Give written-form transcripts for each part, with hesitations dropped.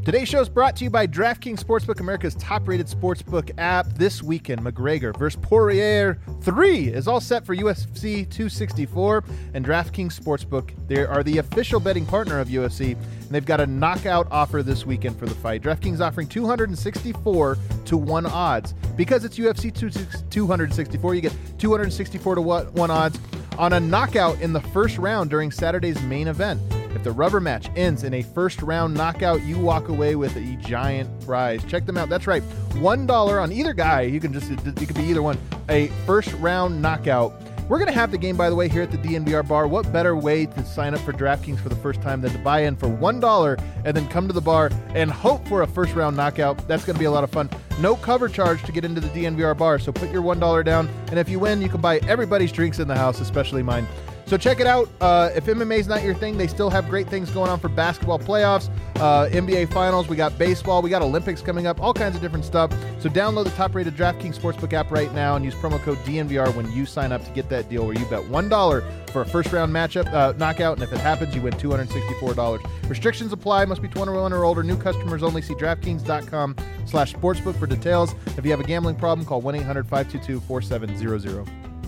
Today's show is brought to you by DraftKings Sportsbook, America's top-rated sportsbook app. This weekend, McGregor vs. Poirier 3 is all set for UFC 264, and DraftKings Sportsbook, they are the official betting partner of UFC, and they've got a knockout offer this weekend for the fight. DraftKings offering 264 to 1 odds. Because it's UFC 264, you get 264 to 1 odds on a knockout in the first round during Saturday's main event. If the rubber match ends in a first-round knockout, you walk away with a giant prize. Check them out. That's right, $1 on either guy. You could be either one. A first-round knockout. We're going to have the game, by the way, here at the DNVR bar. What better way to sign up for DraftKings for the first time than to buy in for $1 and then come to the bar and hope for a first-round knockout? That's going to be a lot of fun. No cover charge to get into the DNVR bar, so put your $1 down, and if you win, you can buy everybody's drinks in the house, especially mine. So check it out. If MMA is not your thing, they still have great things going on for basketball playoffs, NBA finals. We got baseball. We got Olympics coming up, all kinds of different stuff. So download the top-rated DraftKings Sportsbook app right now and use promo code DNVR when you sign up to get that deal where you bet $1 for a first-round matchup knockout, and if it happens, you win $264. Restrictions apply. Must be 21 or older. New customers only. See DraftKings.com/sportsbook for details. If you have a gambling problem, call 1-800-522-4700.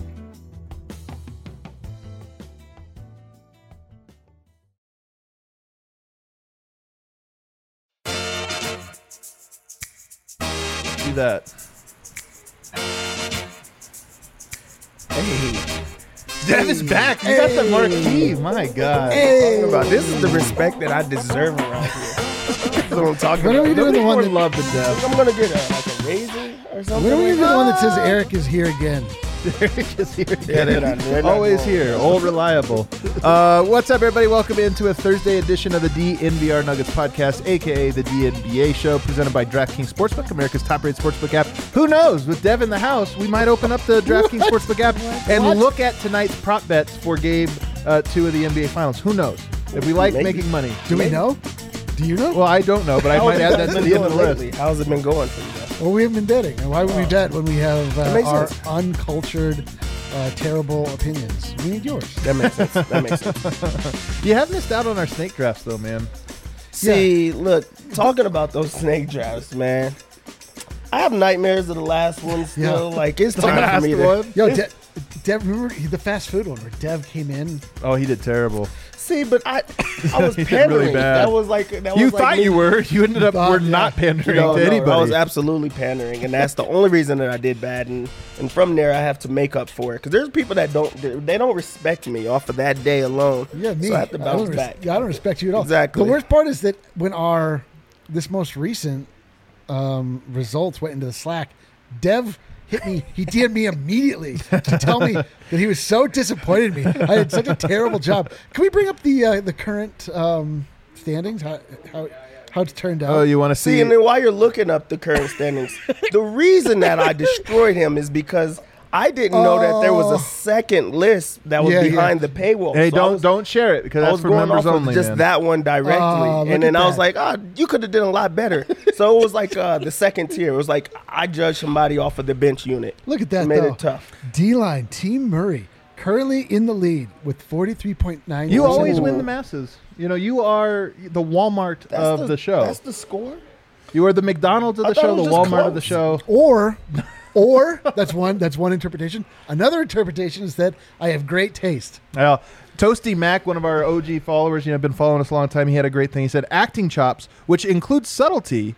That. Hey, Dev is back. You got the marquee. My God. Hey, this is the respect that I deserve around here. That's what I'm talking When about. are we doing the one that love the Dev? I'm gonna get a razor or something. When are we doing the one that says Eric is here again? Eric is here. Yeah, they're not Always going. here. Old reliable. What's up, everybody? Welcome into a Thursday edition of the DNVR Nuggets podcast, a.k.a. the DNBA show, presented by DraftKings Sportsbook, America's top-rated sportsbook app. Who knows? With Dev in the house, we might open up the DraftKings Sportsbook app and look at tonight's prop bets for Game 2 of the NBA Finals. Who knows? If we like Maybe. making money. Do we know? Do you know? Well, I don't know, but I might add that to the end of the list. How's it been going for you guys? Well, we haven't been betting. And why would we bet when we have makes our sense. uncultured, terrible opinions? We need yours. That makes sense. That makes sense. You have missed out on our snake drafts, though, man. See, look, talking about those snake drafts, man. I have nightmares of the last one still. Yeah. Like, it's time for me to... Yo, Dev, remember the fast food one where Dev came in? Oh, he did terrible. See, but I was He did pandering. really bad. That was like... You thought you were. You ended up were not pandering No, to no, anybody. I was absolutely pandering, and that's the only reason that I did bad. And from there, I have to make up for it because there's people that don't respect me off of that day alone. Yeah, me. So I have to bounce back. I don't respect you at all. Exactly. The worst part is that when this most recent results went into the Slack, Dev hit me. He DM'd me immediately to tell me that he was so disappointed in me. I had such a terrible job. Can we bring up the current standings? How it's turned out? Oh, you want to See, see? and then while you're looking up the current standings, the reason that I destroyed him is because I didn't know that there was a second list that was behind the paywall. Hey, So don't share it because I that's was for going members off only. of just man. that one directly, look and then at I was that. like, you could have done a lot better. So it was like the second tier. It was like I judged somebody off of the bench unit. Look at that, It made though. it tough. D-line, Team Murray, currently in the lead with 43.9%. You always win the masses. You know, you are the Walmart of the show. That's the score. You are the McDonald's of I the thought show, it the was just Walmart of the close. show. Or that's one interpretation. Another interpretation is that I have great taste. Well, Toasty Mac, one of our OG followers, been following us a long time. He had a great thing. He said, acting chops, which includes subtlety,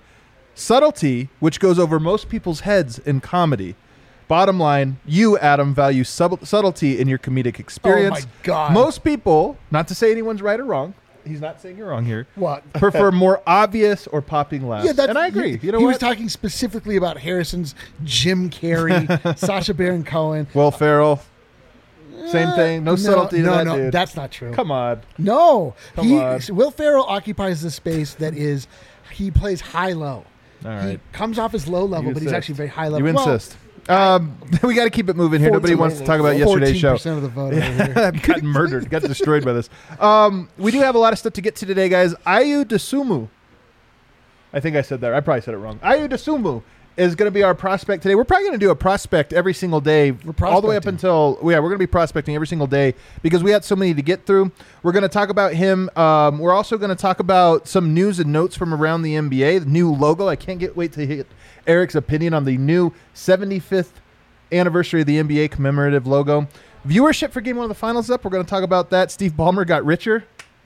which goes over most people's heads in comedy. Bottom line, you, Adam, value subtlety in your comedic experience. Oh, my God. Most people, not to say anyone's right or wrong, he's not saying you're wrong here, What? prefer more obvious or popping laughs. Yeah, and I agree. You know he what? was talking specifically about Harrison's Jim Carrey, Sacha Baron Cohen. Will Ferrell, same thing. No subtlety to that dude. That's not true. Come on. No, Come on. Will Ferrell occupies the space that is. He plays high-low. All He right. comes off as low-level, You but he's insist. actually very high-level. You Well, insist. We got to keep it moving here. Nobody wants to talk about yesterday's show. 14% of the vote over here. I've gotten murdered, got destroyed by this. We do have a lot of stuff to get to today, guys. Ayu Dosunmu. I think I said that. I probably said it wrong. Ayu Dosunmu is going to be our prospect today. We're probably going to do a prospect every single day, all the way up until we're going to be prospecting every single day because we had so many to get through. We're going to talk about him. We're also going to talk about some news and notes from around the NBA. The new logo. I can't wait to get Eric's opinion on the new 75th anniversary of the NBA commemorative logo. Viewership for Game 1 of the Finals is up. We're going to talk about that. Steve Ballmer got richer.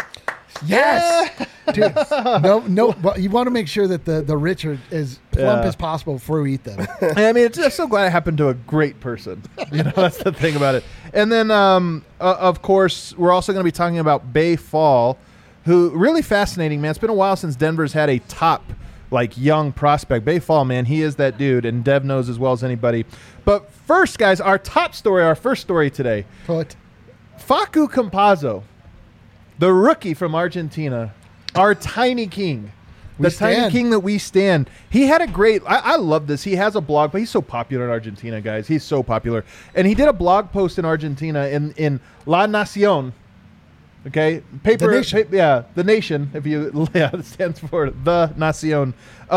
Yes, dude. No. But you want to make sure that the rich are as plump as possible before we eat them. I mean, I'm so glad it happened to a great person. That's the thing about it. And then, of course, we're also going to be talking about Baye Fall, who really fascinating, man. It's been a while since Denver's had a top young prospect. Baye Fall, man, he is that dude, and Dev knows as well as anybody. But first, guys, our first story today. What? Facu Campazzo, the rookie from Argentina, our tiny king. Tiny king that we stand. He had a great, I love this. He has a blog, but he's so popular in Argentina, guys. He's so popular. And he did a blog post in Argentina in La Nación. Okay? Paper. The Nation. The Nation. It stands for The Nación.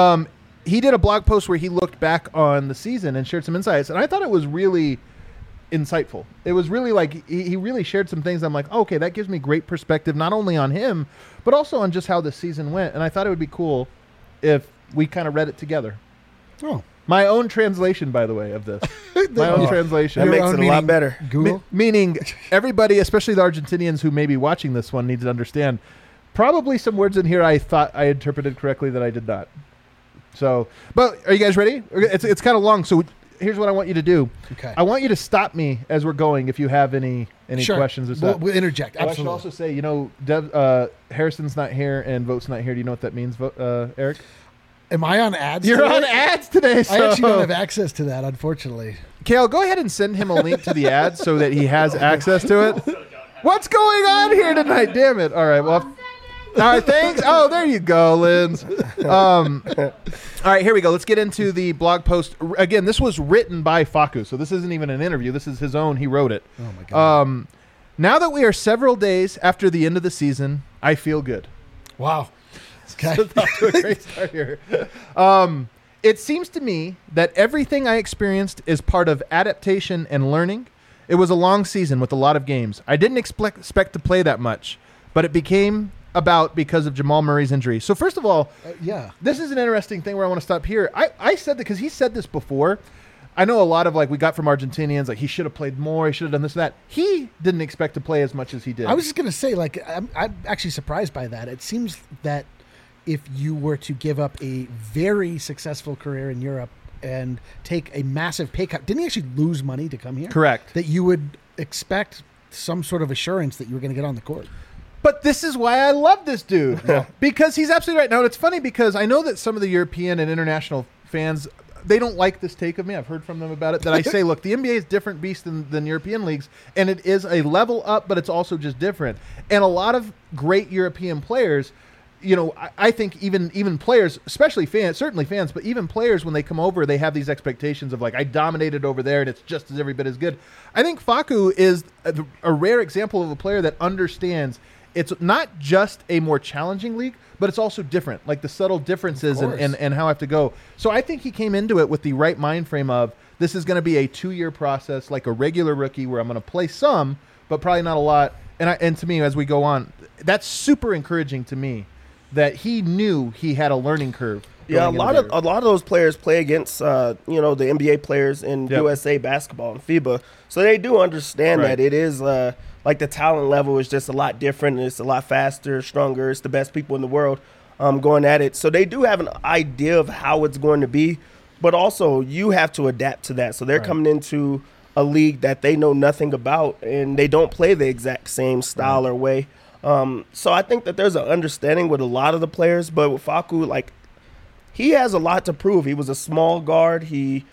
He did a blog post where he looked back on the season and shared some insights. And I thought it was really insightful. It was really he really shared some things. I'm like, okay, that gives me great perspective, not only on him, but also on just how the season went. And I thought it would be cool if we kind of read it together. Oh. My own translation, by the way, of this. My own translation. That makes it a lot better. Google? Meaning everybody, especially the Argentinians who may be watching this one, needs to understand probably some words in here I thought I interpreted correctly that I did not. So, but are you guys ready? It's kind of long, so here's what I want you to do. Okay. I want you to stop me as we're going if you have any Sure. questions or stuff. We'll interject. I should Absolutely. also say, Harrison's not here and Vote's not here. Do you know what that means, Eric? Am I on ads? You're today? on ads today. So. I actually don't have access to that, unfortunately. Kale, go ahead and send him a link to the ad so that he has access to it. What's going on here tonight? Damn it. All right. Well, all right. Thanks. Oh, there you go, Linz. All right. Here we go. Let's get into the blog post. Again, this was written by Facu, so this isn't even an interview. This is his own. He wrote it. Oh, my God. Now that we are several days after the end of the season, I feel good. Wow. Okay. So off to a great start here. It seems to me that everything I experienced is part of adaptation and learning. It was a long season with a lot of games. I didn't expect to play that much, but it became about because of Jamal Murray's injury. So first of all, this is an interesting thing where I want to stop here. I said that because he said this before. I know a lot of we got from Argentinians, he should have played more. He should have done this and that. He didn't expect to play as much as he did. I was just going to say, I'm actually surprised by that. It seems that if you were to give up a very successful career in Europe and take a massive pay cut, didn't he actually lose money to come here? Correct. That you would expect some sort of assurance that you were going to get on the court. But this is why I love this dude. Because he's absolutely right. Now, it's funny because I know that some of the European and international fans, they don't like this take of me. I've heard from them about it. That I say, look, the NBA is a different beast than European leagues, and it is a level up, but it's also just different. And a lot of great European players, I think even players, especially fans, certainly fans, but even players, when they come over, they have these expectations of I dominated over there and it's just as every bit as good. I think Facu is a rare example of a player that understands it's not just a more challenging league, but it's also different, the subtle differences and how I have to go. So I think he came into it with the right mind frame of this is going to be a 2-year process, like a regular rookie where I'm going to play some, but probably not a lot. And to me, as we go on, that's super encouraging to me. That he knew he had a learning curve. Yeah, a lot of those players play against the NBA players in USA basketball and FIBA, so they do understand that it is the talent level is just a lot different. It's a lot faster, stronger. It's the best people in the world going at it, so they do have an idea of how it's going to be. But also, you have to adapt to that. So they're coming into a league that they know nothing about, and they don't play the exact same style or way. So I think that there's an understanding with a lot of the players, but with Facu, he has a lot to prove. He was a small guard. He's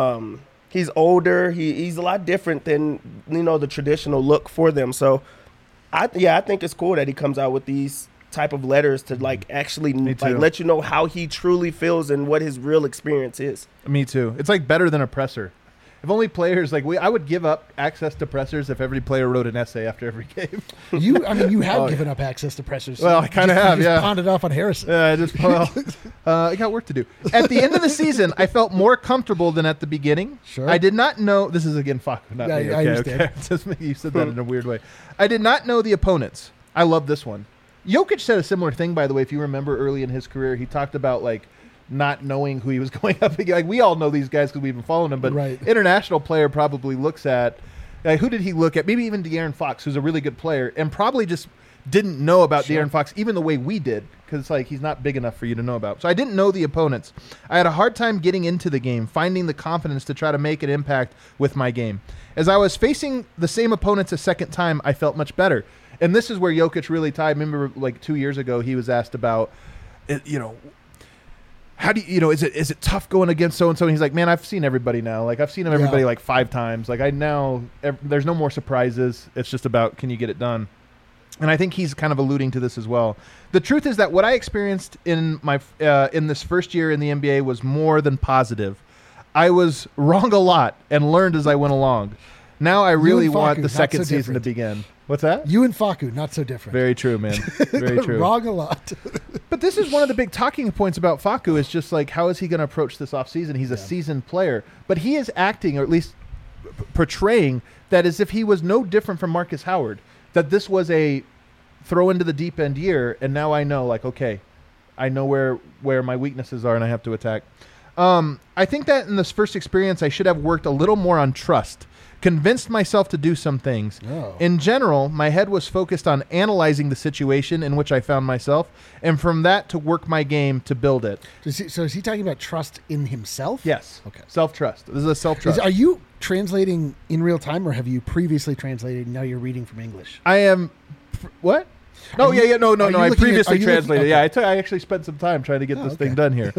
older. He's a lot different than the traditional look for them. So I think it's cool that he comes out with these type of letters to actually let you know how he truly feels and what his real experience is. Me too. It's better than a presser. If only players I would give up access to pressers if every player wrote an essay after every game. You have given up access to pressers. Well, I kind of have, you yeah. Pawned it off on Harrison. I got work to do. At the end of the season, I felt more comfortable than at the beginning. Sure. I did not know. This is again Facu, not me. Okay, I understand. Okay. You said that in a weird way. I did not know the opponents. I love this one. Jokic said a similar thing, by the way. If you remember early in his career, he talked about not knowing who he was going up against. We all know these guys because we've been following them, but right. International player probably looks at who did he look at? Maybe even De'Aaron Fox, who's a really good player, and probably just didn't know about De'Aaron Fox even the way we did because he's not big enough for you to know about. So I didn't know the opponents. I had a hard time getting into the game, finding the confidence to try to make an impact with my game. As I was facing the same opponents a second time, I felt much better. And this is where Jokic really tied. Remember, 2 years ago, he was asked about, how do you, is it tough going against so and so? And he's like, man, I've seen everybody now. I've seen everybody 5 times. There's no more surprises. It's just about, can you get it done? And I think he's kind of alluding to this as well. The truth is that what I experienced in my in this first year in the NBA was more than positive. I was wrong a lot and learned as I went along. Now I really want the second season to begin. What's that? You and Facu, not so different. Very true, man. Very true. Wrong a lot. But this is one of the big talking points about Facu is just how is he going to approach this offseason? He's a seasoned player. But he is acting, or at least portraying, that as if he was no different from Marcus Howard. That this was a throw into the deep end year, and now I know, okay, I know where my weaknesses are and I have to attack. I think that in this first experience, I should have worked a little more on trust. Convinced myself to do some things. Oh. In general, my head was focused on analyzing the situation in which I found myself, and from that to work my game to build it. So is he talking about trust in himself? Yes. Okay. Self-trust. This is a self-trust. Are you translating in real time, or have you previously translated and now you're reading from English? I am... What? No, no. I previously translated. Okay. I actually spent some time trying to get this thing done here.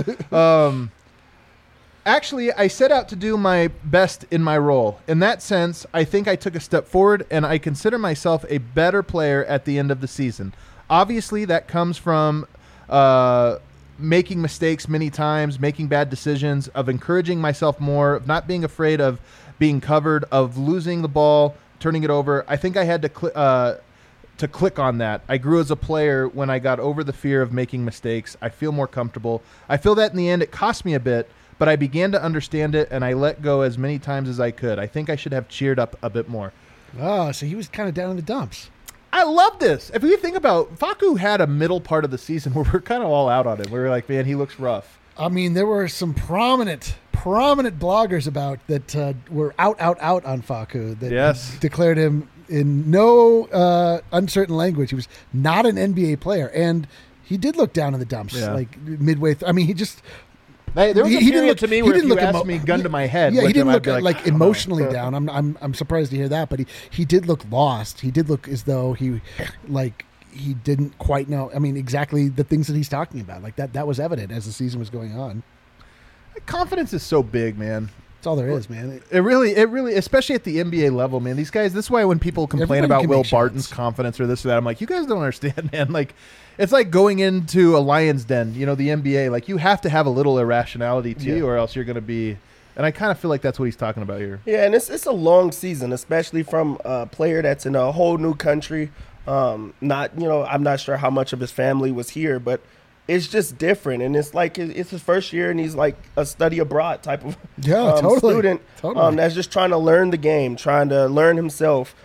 Actually, I set out to do my best in my role. In that sense, I think I took a step forward, and I consider myself a better player at the end of the season. Obviously, that comes from making mistakes many times, making bad decisions, of encouraging myself more, of not being afraid of being covered, of losing the ball, turning it over. I think I had to click on that. I grew as a player when I got over the fear of making mistakes. I feel more comfortable. I feel that in the end it cost me a bit, but I began to understand it, and I let go as many times as I could. I think I should have cheered up a bit more. Oh, so he was kind of down in the dumps. I love this. If you think about, Facu had a middle part of the season where we're kind of all out on him. We were like, man, he looks rough. I mean, there were some prominent bloggers about that were out on Facu that declared him in no uncertain language. He was not an NBA player, and he did look down in the dumps midway. He just... There was a period to me where if you asked me gun to my head. Yeah, he didn't look like emotionally down. I'm surprised to hear that, but he did look lost. He did look as though he didn't quite know. Exactly the things that he's talking about. That was evident as the season was going on. Confidence is so big, man. That's all there is, man. It really, especially at the NBA level, man. These guys. This is why when people complain about Will Barton's confidence or this or that, I'm like, you guys don't understand, man. It's like going into a lion's den, the NBA. You have to have a little irrationality to you, or else you're going to be. And I kind of feel like that's what he's talking about here. Yeah, and it's a long season, especially from a player that's in a whole new country. I'm not sure how much of his family was here, but it's just different. And it's like it's his first year, and he's like a study abroad type of student that's just trying to learn the game, trying to learn himself.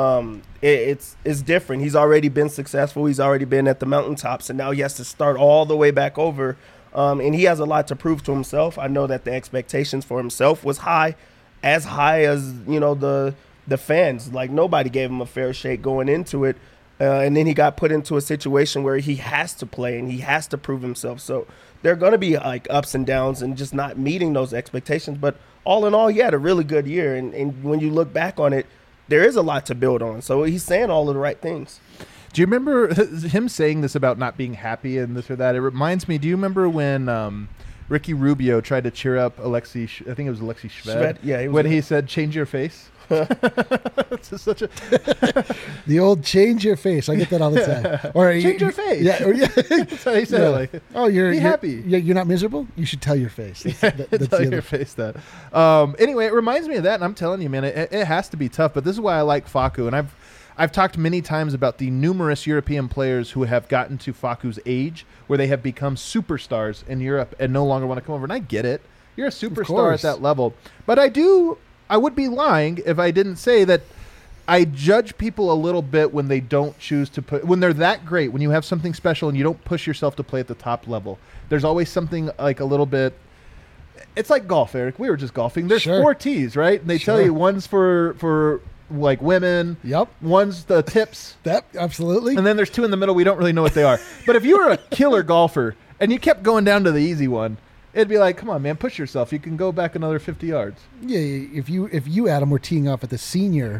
It's different. He's already been successful. He's already been at the mountaintops, and now he has to start all the way back over. And he has a lot to prove to himself. I know that the expectations for himself was high as the fans. Nobody gave him a fair shake going into it. And then he got put into a situation where he has to play and he has to prove himself. So there are going to be ups and downs and just not meeting those expectations. But all in all, he had a really good year. And when you look back on it, there is a lot to build on. So he's saying all of the right things. Do you remember him saying this about not being happy and this or that? It reminds me, do you remember when Ricky Rubio tried to cheer up Alexei Shved? Yeah, when he said, change your face? It's just such a The old change your face. I get that all the time. Or change your face. Yeah. That's how he said it. Like, oh, you're happy. You're not miserable. You should tell your face. That's tell your face that. Anyway, it reminds me of that, and I'm telling you, man, it has to be tough. But this is why I like Facu, and I've talked many times about the numerous European players who have gotten to Facu's age, where they have become superstars in Europe and no longer want to come over. And I get it. You're a superstar at that level. But I would be lying if I didn't say that I judge people a little bit when they don't choose to when they're that great, when you have something special and you don't push yourself to play at the top level. There's always something like a little bit. It's like golf, Eric. We were just golfing. There's 4 tees, right? And they tell you one's for like women. Yep. One's the tips. Absolutely. And then there's 2 in the middle. We don't really know what they are. But if you were a killer golfer and you kept going down to the easy one, it'd be like, come on, man, push yourself. You can go back another 50 yards. Yeah, if you Adam were teeing off at the senior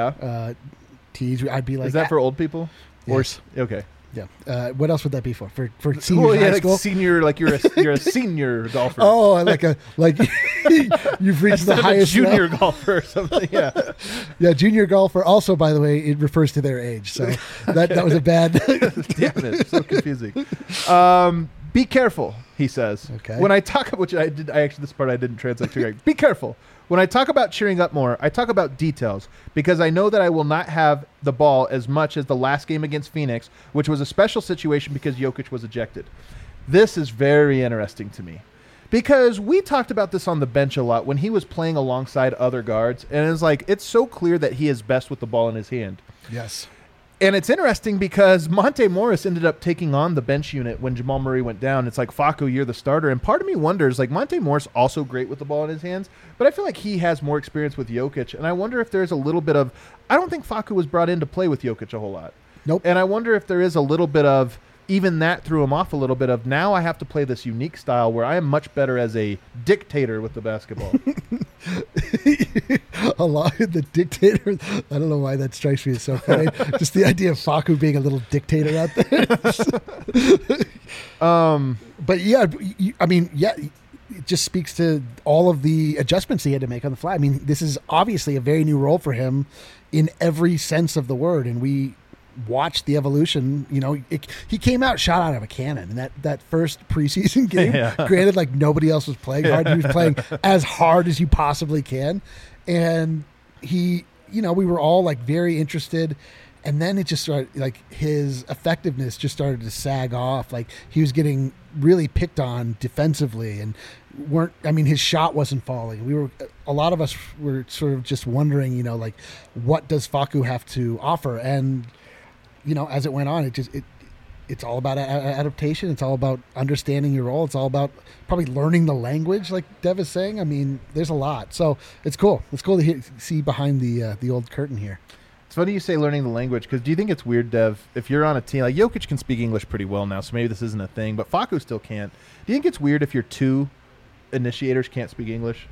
tees, I'd be like, is that for old people? Yes. Or okay. Yeah. What else would that be for? For senior high school? Like senior, like you're a senior golfer. Oh, like you've reached the highest junior golfer or something. Yeah. Yeah, junior golfer. Also, by the way, it refers to their age. So that was a bad. Damn it! So confusing. Be careful, he says. Okay. When I talk about, which I actually this part I didn't translate too right. Be careful. When I talk about cheering up more, I talk about details because I know that I will not have the ball as much as the last game against Phoenix, which was a special situation because Jokic was ejected. This is very interesting to me because we talked about this on the bench a lot when he was playing alongside other guards, and it's like it's so clear that he is best with the ball in his hand. Yes. And it's interesting because Monte Morris ended up taking on the bench unit when Jamal Murray went down. It's like, Facu, you're the starter. And part of me wonders, like, Monte Morris also great with the ball in his hands, but I feel like he has more experience with Jokic. And I wonder if there's a little bit of – I don't think Facu was brought in to play with Jokic a whole lot. Nope. And I wonder if there is a little bit of – even that threw him off a little bit of now I have to play this unique style where I am much better as a dictator with the basketball. A lot of the dictator. I don't know why that strikes me as so funny. Just the idea of Facu being a little dictator out there. But yeah, I mean, yeah, it just speaks to all of the adjustments he had to make on the fly. I mean, this is obviously a very new role for him in every sense of the word, and we watched the evolution. You know, he came out shot out of a cannon in that first preseason game. Yeah. Granted, like nobody else was playing hard. He was playing as hard as you possibly can, and he, you know, we were all like very interested. And then it just started, like his effectiveness just started to sag off. Like he was getting really picked on defensively, and his shot wasn't falling. A lot of us were sort of just wondering, you know, like what does Facu have to offer? And you know, as it went on, it's all about adaptation. It's all about understanding your role. It's all about probably learning the language, like Dev is saying. I mean, there's a lot. So it's cool. It's cool to see behind the old curtain here. It's funny you say learning the language because do you think it's weird, Dev, if you're on a team, like Jokic can speak English pretty well now, so maybe this isn't a thing, but Facu still can't. Do you think it's weird if your 2 initiators can't speak English?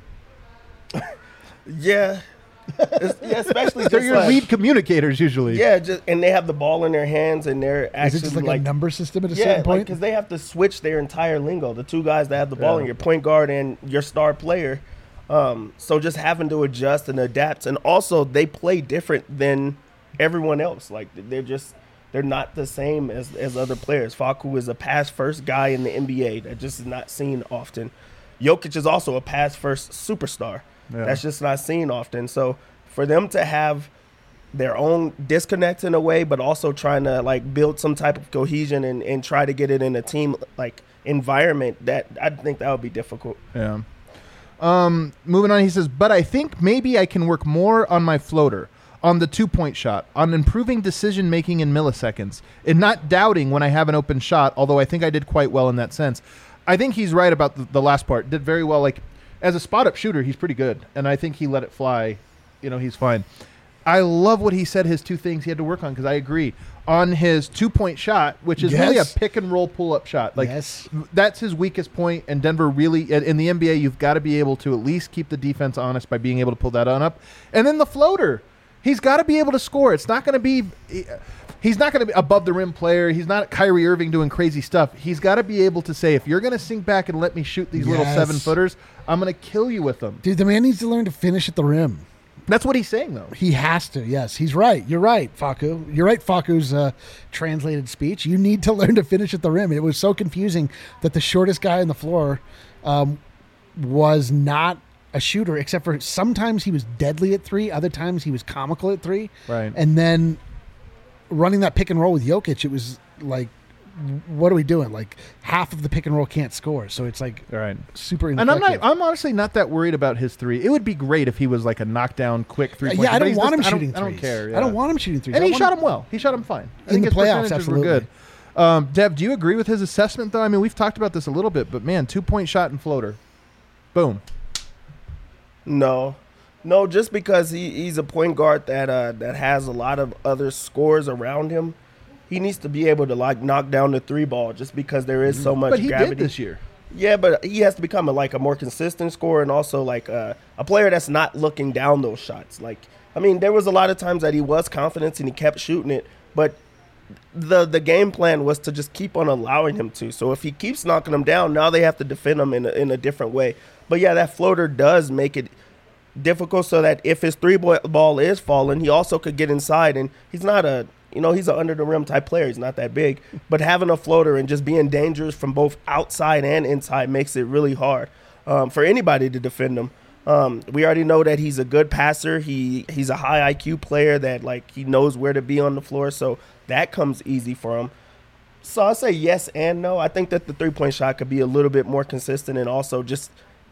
Yeah. Especially they're your lead communicators usually. Yeah, and they have the ball in their hands, and they're actually is it just like a number system at a certain point? Because they have to switch their entire lingo. The 2 guys that have the ball, and your point guard and your star player. So just having to adjust and adapt, and also they play different than everyone else. Like they're not the same as other players. Facu is a pass first guy in the NBA that just is not seen often. Jokic is also a pass first superstar. Yeah. That's just not seen often. So for them to have their own disconnect in a way, but also trying to like build some type of cohesion and try to get it in a team like environment, that I think that would be difficult. Yeah. Moving on, he says, but I think maybe I can work more on my floater, on the 2-point shot, on improving decision making in milliseconds, and not doubting when I have an open shot, although I think I did quite well in that sense. I think he's right about the last part. Did very well. Like, as a spot-up shooter, he's pretty good, and I think he let it fly. You know, he's fine. I love what he said his 2 things he had to work on, because I agree. On his 2-point shot, which is really a pick-and-roll pull-up shot. Like, that's his weakest point, and Denver really, in the NBA, you've got to be able to at least keep the defense honest by being able to pull that on up. And then the floater. He's got to be able to score. It's not going to be... He's not going to be above the rim player. He's not Kyrie Irving doing crazy stuff. He's got to be able to say, if you're going to sink back and let me shoot these little 7-footers, I'm going to kill you with them. Dude, the man needs to learn to finish at the rim. That's what he's saying, though. He has to. Yes, he's right. You're right, Facu. You're right, Facu's translated speech. You need to learn to finish at the rim. It was so confusing that the shortest guy on the floor was not a shooter, except for sometimes he was deadly at 3, other times he was comical at 3. Right. And then running that pick and roll with Jokic, it was like, what are we doing? Like half of the pick and roll can't score, so it's like super ineffective. And I'm honestly not that worried about his 3. It would be great if he was like a knockdown, quick 3-point. Yeah, I don't want him shooting threes. I don't care. Yeah. I don't want him shooting threes. And he shot him well. He shot him fine. I think the his playoffs, percentages absolutely. were good. Dev, do you agree with his assessment, though? I mean, we've talked about this a little bit, but man, 2-point shot and floater. Boom. No, just because he's a point guard that has a lot of other scores around him. He needs to be able to like knock down the 3 ball just because there is so much But he gravity. did this year. Yeah, but he has to become a more consistent scorer and also like a player that's not looking down those shots. Like, I mean, there was a lot of times that he was confident and he kept shooting it, but the game plan was to just keep on allowing him to. So if he keeps knocking them down, now they have to defend him in a different way. But yeah, that floater does make it difficult so that if his 3-ball is falling, he also could get inside. And he's not he's an under-the-rim type player. He's not that big. But having a floater and just being dangerous from both outside and inside makes it really hard for anybody to defend him. We already know that he's a good passer. He's a high IQ player that, like, he knows where to be on the floor. So that comes easy for him. So I'll say yes and no. I think that the 3-point shot could be a little bit more consistent, and also just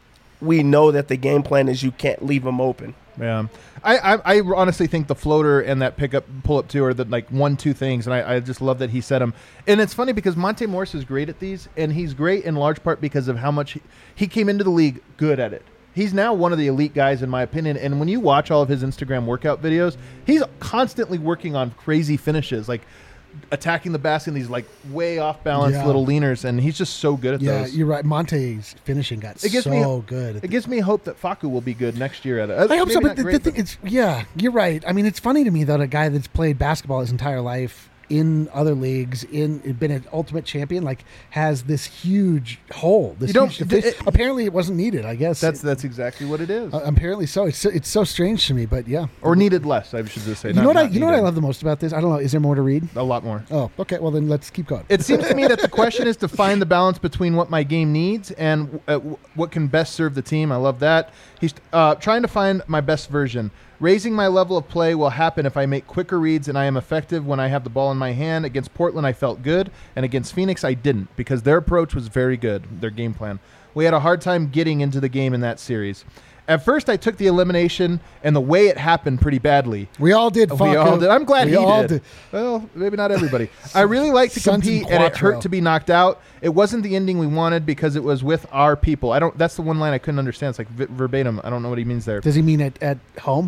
we know that the game plan is you can't leave him open. Yeah, I honestly think the floater and that pull up too are the like 1-2 things, and I just love that he said them. And it's funny because Monte Morris is great at these, and he's great in large part because of how much he came into the league good at it. He's now one of the elite guys in my opinion, and when you watch all of his Instagram workout videos, he's constantly working on crazy finishes, like attacking the basket in these like way off balance little leaners, and he's just so good at those. Yeah, you're right. Monte's finishing got so good. It gives me hope that Facu will be good next year at it. I hope so, but the thing is, you're right. I mean, it's funny to me that a guy that's played basketball his entire life in other leagues, been an ultimate champion, like has this huge hole. Apparently, it wasn't needed. I guess that's exactly what it is. Apparently, so it's so strange to me, but yeah, or needed less. I should just say. You know what I love the most about this? I don't know. Is there more to read? A lot more. Oh, okay. Well, then let's keep going. It seems to me that the question is to find the balance between what my game needs and what can best serve the team. I love that. He's trying to find my best version. Raising my level of play will happen if I make quicker reads and I am effective when I have the ball in my hand. Against Portland, I felt good, and against Phoenix, I didn't because their approach was very good, their game plan. We had a hard time getting into the game in that series. At first, I took the elimination and the way it happened pretty badly. We all did, Facu. We all did. I'm glad he did. Well, maybe not everybody. I really like to compete, and it hurt to be knocked out. It wasn't the ending we wanted because it was with our people. That's the one line I couldn't understand. It's like verbatim. I don't know what he means there. Does he mean at home?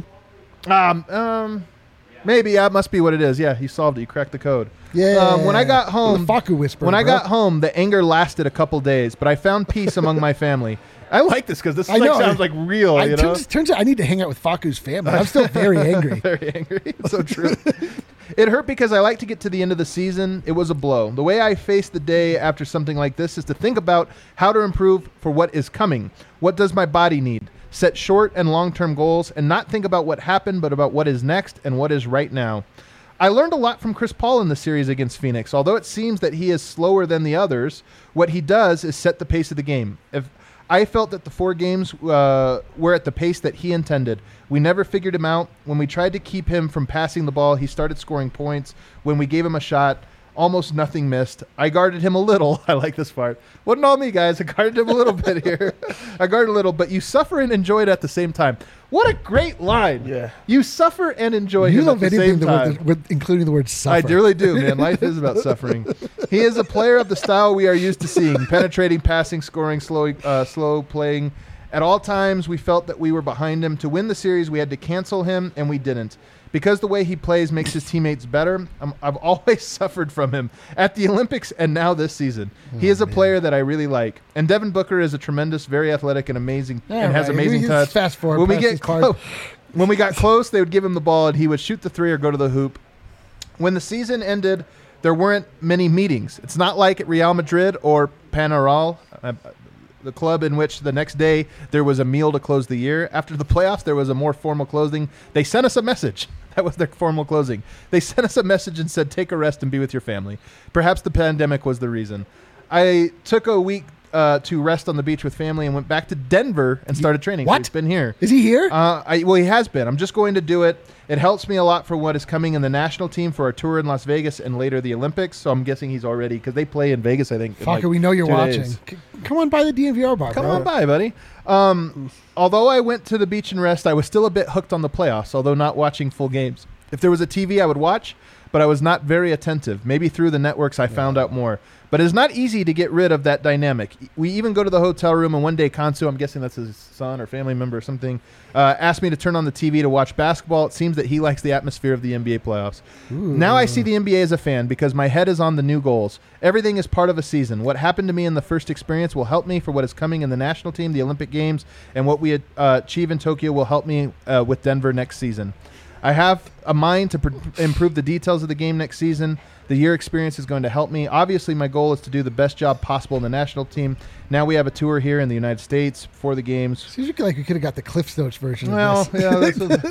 Maybe that must be what it is. Yeah, he solved it. He cracked the code. Yeah. When I got home, the Facu whisper. When I got home, the anger lasted a couple days, but I found peace among my family. I like this because this sounds like real. Turns out I need to hang out with Facu's family. I'm still very angry. Very angry. It's so true. It hurt because I like to get to the end of the season. It was a blow. The way I face the day after something like this is to think about how to improve for what is coming. What does my body need? Set short and long-term goals and not think about what happened, but about what is next and what is right now. I learned a lot from Chris Paul in the series against Phoenix. Although it seems that he is slower than the others, what he does is set the pace of the game. If I felt that the 4 games were at the pace that he intended. We never figured him out. When we tried to keep him from passing the ball, he started scoring points. When we gave him a shot, almost nothing missed. I guarded him a little. I like this part. Wasn't all me, guys. I guarded him a little bit here. I guarded a little, but you suffer and enjoy it at the same time. What a great line. Yeah. You suffer and enjoy him at the same time. Including the word suffer. I really do, man. Life is about suffering. He is a player of the style we are used to seeing. Penetrating, passing, scoring, slow playing. At all times, we felt that we were behind him. To win the series, we had to cancel him, and we didn't. Because the way he plays makes his teammates better, I've always suffered from him at the Olympics and now this season. He is a player that I really like. And Devin Booker is a tremendous, very athletic and amazing, and has amazing touch. Fast forward. When we got close, they would give him the ball and he would shoot the 3 or go to the hoop. When the season ended, there weren't many meetings. It's not like at Real Madrid or Penarol. the club in which the next day there was a meal to close the year. After the playoffs, there was a more formal closing. They sent us a message. That was their formal closing. They sent us a message and said, take a rest and be with your family. Perhaps the pandemic was the reason. I took a week to rest on the beach with family and went back to Denver and started training. What? So he's been here. Is he here? Well, he has been. I'm just going to do it. It helps me a lot for what is coming in the national team for our tour in Las Vegas and later the Olympics. So I'm guessing he's already, because they play in Vegas, I think. Fucker, we know you're 2 watching. days. Come on by the DNVR bar, Come bro. on by, buddy. Although I went to the beach and rest, I was still a bit hooked on the playoffs, although not watching full games. If there was a TV, I would watch, but I was not very attentive. Maybe through the networks I found out more. But it's not easy to get rid of that dynamic. We even go to the hotel room, and one day Kansu, I'm guessing that's his son or family member or something, asked me to turn on the TV to watch basketball. It seems that he likes the atmosphere of the NBA playoffs. Ooh. Now I see the NBA as a fan because my head is on the new goals. Everything is part of a season. What happened to me in the first experience will help me for what is coming in the national team, the Olympic Games, and what we achieve in Tokyo will help me with Denver next season. I have a mind to improve the details of the game next season. The year experience is going to help me. Obviously, my goal is to do the best job possible in the national team. Now we have a tour here in the United States for the games. Seems like we could have got the Cliff Notes version of this. Yeah,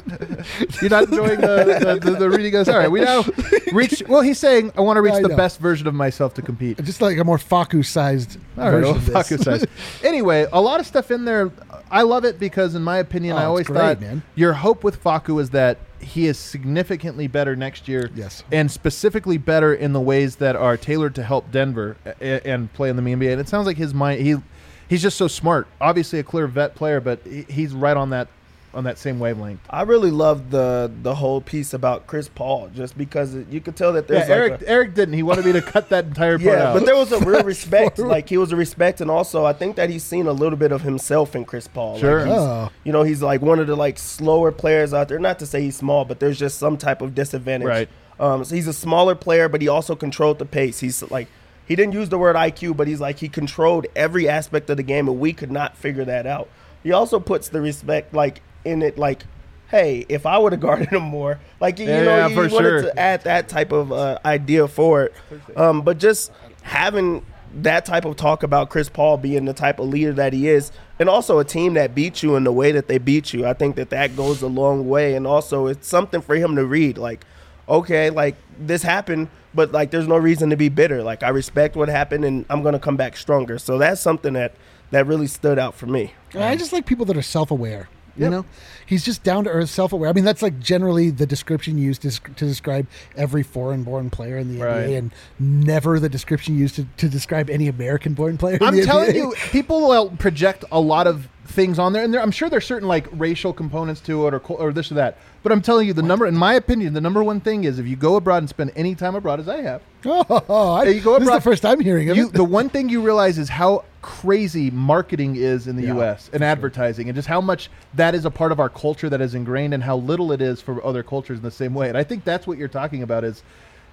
you're not enjoying the reading of this. All right, we now reach. Well, he's saying I want to reach the best version of myself to compete. Just like a more Faku-sized version of this. Faku-sized. Anyway, a lot of stuff in there. I love it because, in my opinion, I always thought your hope with Faku is that he is significantly better next year. Yes. And specifically better in the ways that are tailored to help Denver and play in the NBA. And it sounds like his mind, he's just so smart. Obviously a clear vet player, but he's right on that same wavelength. I really love the whole piece about Chris Paul, just because you could tell that there's Eric didn't. He wanted me to cut that entire part out. But there was a real respect. Like, he was a respect, and also I think that he's seen a little bit of himself in Chris Paul. Sure. Like he's like one of the like slower players out there. Not to say he's small, but there's just some type of disadvantage. Right. So he's a smaller player, but he also controlled the pace. He's like, he didn't use the word IQ, but he's like, he controlled every aspect of the game, and we could not figure that out. He also puts the respect like in it, like, hey, if I would have guarded him more, like, he wanted to add that type of idea for it. But just having that type of talk about Chris Paul being the type of leader that he is, and also a team that beat you in the way that they beat you, I think that goes a long way. And also it's something for him to read, like, okay, like, this happened, but like, there's no reason to be bitter. Like, I respect what happened, and I'm going to come back stronger. So that's something that really stood out for me. I just like people that are self-aware. You know, he's just down to earth, self-aware. I mean, that's like generally the description used to describe every foreign-born player in the NBA, and never the description used to describe any American-born player. I'm telling you, people will project a lot of things on there, and I'm sure there's certain like racial components to it, or this or that. But I'm telling you, in my opinion, the number one thing is if you go abroad and spend any time abroad, as I have. You go abroad, this is the first time hearing of it. The one thing you realize is how crazy marketing is in the U.S. and advertising, and just how much that is a part of our culture that is ingrained, and how little it is for other cultures in the same way. And I think that's what you're talking about is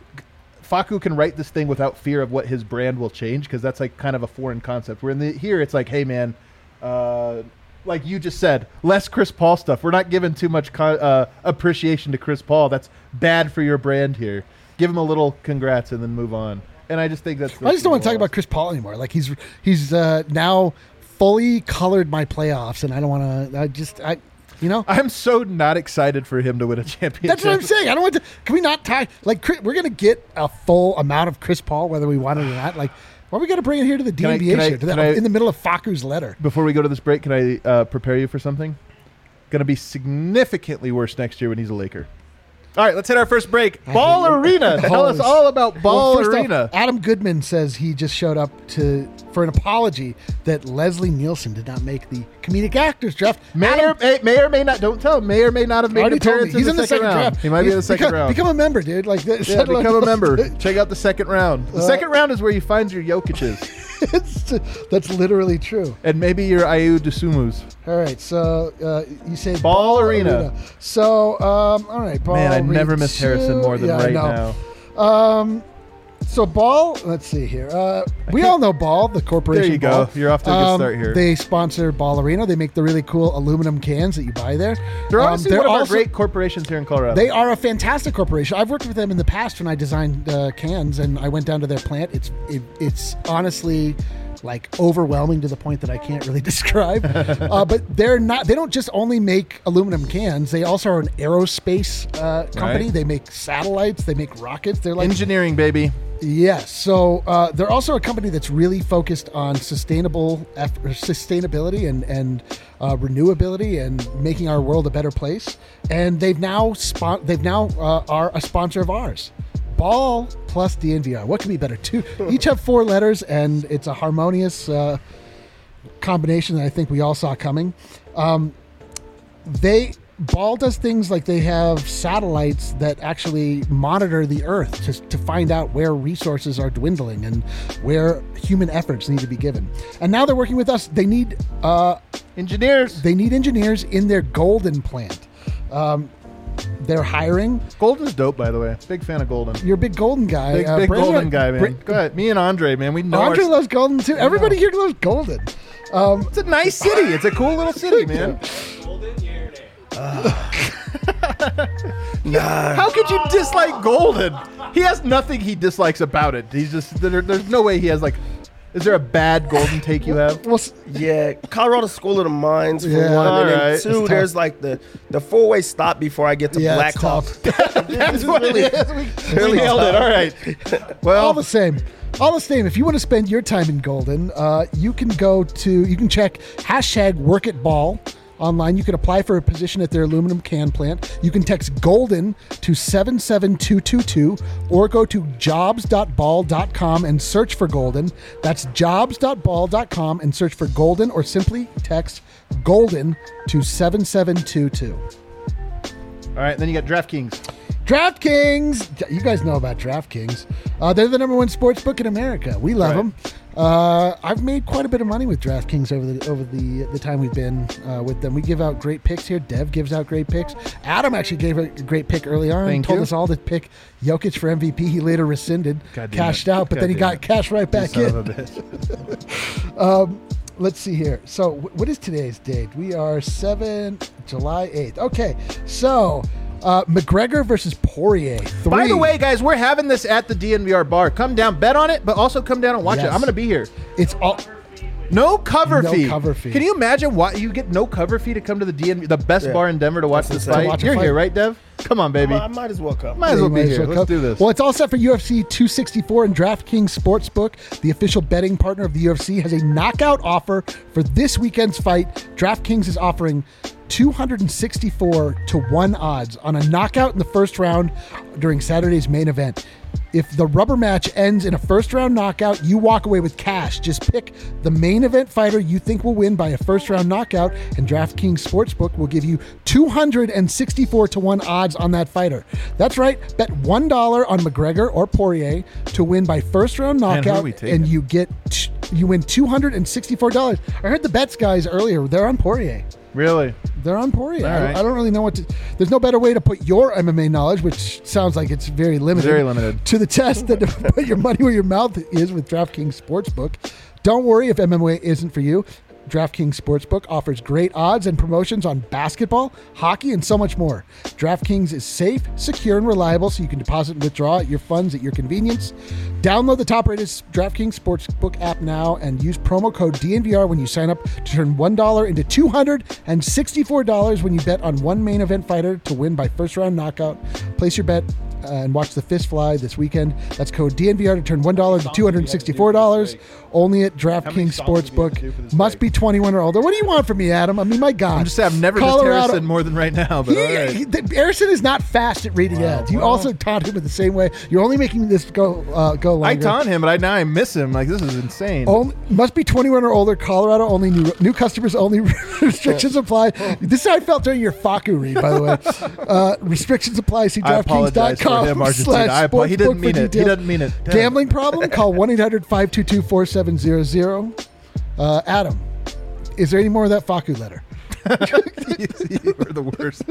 Faku can write this thing without fear of what his brand will change, because that's like kind of a foreign concept. Where here it's like, hey man, like you just said, less Chris Paul stuff. We're not giving too much appreciation to Chris Paul. That's bad for your brand here. Give him a little congrats and then move on. And I just think I just don't want to talk about Chris Paul anymore. Like, he's now fully colored my playoffs, and I don't want to. I'm so not excited for him to win a championship. That's what I'm saying. I don't want to. Can we not talk? Like, we're going to get a full amount of Chris Paul, whether we want it or not. Like, why are we going to bring it here to the DNBA show in the middle of Faku's letter? Before we go to this break, can I prepare you for something? Going to be significantly worse next year when he's a Laker. All right, let's hit our first break. Ball Arena. Tell us all about Ball Arena. Adam Goodman says he just showed up for an apology that Leslie Nielsen did not make the comedic actors draft. May or may not. Don't tell him. May or may not have made an appearance in the second round. Draft. He might be in the second round. Become a member, dude. Become a member. Check out the second round. The second round is where you find your Jokic's. That's literally true. And maybe your Ayu Dosumus. All right, so you say Ball Arena. So, all right, Ball Arena. Man, I never missed Harrison more than now. So Ball, let's see here. We all know Ball, the corporation. There you Ball. go. You're off to a good start here. They sponsor Ball Arena. They make the really cool aluminum cans that you buy there. They're honestly one of our great corporations here in Colorado. They are a fantastic corporation. I've worked with them in the past when I designed cans, and I went down to their plant. It's honestly like overwhelming to the point that I can't really describe. But they don't just only make aluminum cans. They also are an aerospace company. Right. They make satellites. They make rockets. They're like engineering, baby. Yes. So they're also a company that's really focused on sustainability and renewability and making our world a better place. And they've now are a sponsor of ours. Ball plus DNVR. What could be better? Each have 4 letters, and it's a harmonious combination that I think we all saw coming. Ball does things like they have satellites that actually monitor the Earth to find out where resources are dwindling and where human efforts need to be given. And now they're working with us. They need engineers. They need engineers in their Golden plant. They're hiring. Golden's dope, by the way. Big fan of Golden. You're a big Golden guy. Big Golden guy, man. Go ahead. Me and Andre, man. We know Andre loves Golden too. Everybody here loves Golden. It's a nice city. It's a cool little city, man. How could you dislike Golden? He has nothing he dislikes about it. He's just there's no way he has like. Is there a bad Golden take you have? Well, yeah, Colorado School of the Mines for one, all and then right. 2, there's like the 4-way stop before I get to Black Hawk. That's what it is. We nailed it. All right. Well, all the same. If you want to spend your time in Golden, you can check #WorkAtBall online. You can apply for a position at their aluminum can plant. You can text Golden to 77222 or go to jobs.ball.com and search for Golden. That's jobs.ball.com and search for Golden, or simply text Golden to 7722. All right, then you got DraftKings. DraftKings! You guys know about DraftKings. They're the number 1 sports book in America. We love them. I've made quite a bit of money with DraftKings over the time we've been with them. We give out great picks here. Dev gives out great picks. Adam actually gave a great pick early on. Thank told you. us all to pick Jokic for MVP. He later rescinded, cashed out, but then he got cash right back in. Son of a bitch. Let's see here. So what is today's date? We are July 8th. Okay, so McGregor versus Poirier. 3. By the way, guys, we're having this at the DNVR bar. Come down, bet on it, but also come down and watch it. I'm going to be here. It's all no cover fee. Cover fee. Can you imagine why you get no cover fee to come to the DNVR, the best bar in Denver to watch this fight? You're here, right, Dev? Come on, baby. I might as well come. Might as well be here. Let's do this. Well, it's all set for UFC 264, and DraftKings Sportsbook, the official betting partner of the UFC, has a knockout offer for this weekend's fight. DraftKings is offering 264 to 1 odds on a knockout in the first round during Saturday's main event. If the rubber match ends in a first round knockout, you walk away with cash. Just pick the main event fighter you think will win by a first round knockout, and DraftKings Sportsbook will give you 264 to 1 odds on that fighter. That's right. Bet $1 on McGregor or Poirier to win by first round knockout, and you win $264. I heard the bets guys earlier. They're on Poirier. Really? They're on Poirier. Right. I don't really know what to... There's no better way to put your MMA knowledge, which sounds like it's very limited. Very limited. To the test than to put your money where your mouth is with DraftKings Sportsbook. Don't worry if MMA isn't for you. DraftKings Sportsbook offers great odds and promotions on basketball, hockey, and so much more. DraftKings is safe, secure, and reliable, so you can deposit and withdraw your funds at your convenience. Download the top-rated DraftKings Sportsbook app now and use promo code DNVR when you sign up to turn $1 into $264 when you bet on one main event fighter to win by first-round knockout. Place your bet and watch the fist fly this weekend. That's code DNVR to turn $1 to $264. Only at DraftKings Sportsbook. Must be 21 or older. What do you want from me, Adam? I mean, my God. I'm just saying, I've never missed Harrison more than right now. But all right. Harrison is not fast at reading ads. You also taunt him in the same way. You're only making this go longer. I taunt him, but now I miss him. Like, this is insane. Must be 21 or older. Colorado only. New customers only. Restrictions apply. This is how I felt during your Faku read, by the way. Restrictions apply. See DraftKings.com. He didn't mean it. He doesn't mean it. Gambling problem? Call 1-800-522-4700. Adam, is there any more of that Faku letter? You were the worst.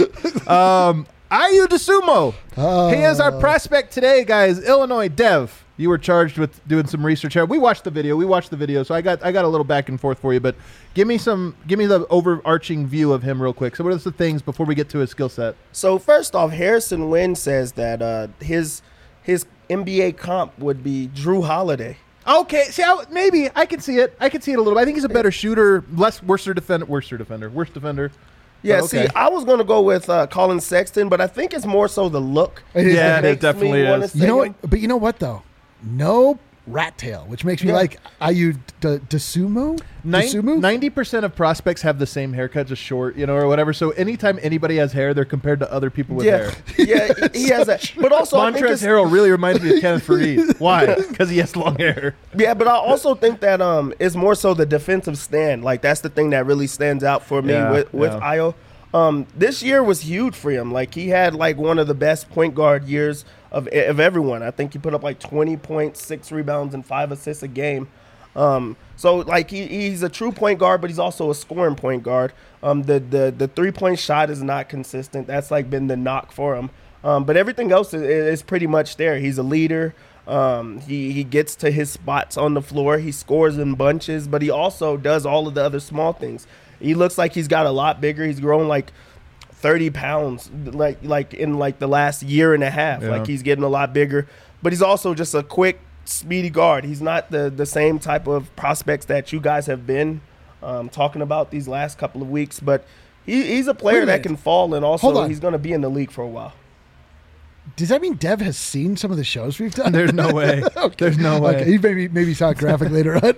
Ayu DeSumo. He is our prospect today, guys. Illinois. Dev, you were charged with doing some research here. We watched the video. So I got a little back and forth for you, but give me the overarching view of him real quick. So what are the things before we get to his skill set? So first off, Harrison Wynn says that his NBA comp would be Drew Holiday. Okay, see, maybe I can see it. I can see it a little bit. I think he's a better shooter, worse defender. Yeah, okay. See, I was going to go with Colin Sexton, but I think it's more so the look. It definitely is. You know what? But you know what, though? No rat tail, which makes me like Ayu Dosunmu. 90% of prospects have the same haircut, just short, or whatever. So anytime anybody has hair, they're compared to other people with hair. Yeah, he has that. But also, Montrezl Harrell really reminds me of Kenneth Faried. Why? Because he has long hair. Yeah, but I also think that it's more so the defensive stand. Like, that's the thing that really stands out for me with Ayo. This year was huge for him. Like, he had like one of the best point guard years of everyone. I think he put up like 20 points, 6 rebounds, and 5 assists a game. So like he's a true point guard, but he's also a scoring point guard. The 3-point shot is not consistent. That's like been the knock for him. But everything else is pretty much there. He's a leader. He gets to his spots on the floor. He scores in bunches, but he also does all of the other small things. He looks like he's got a lot bigger. He's grown like 30 pounds, like in like the last year and a half. Like he's getting a lot bigger, but he's also just a quick, speedy guard. He's not the same type of prospects that you guys have been talking about these last couple of weeks, but he's a player that can fall, and also he's going to be in the league for a while. Does that mean Dev has seen some of the shows we've done? There's no way. Okay. There's no way. Okay. He maybe saw a graphic later on.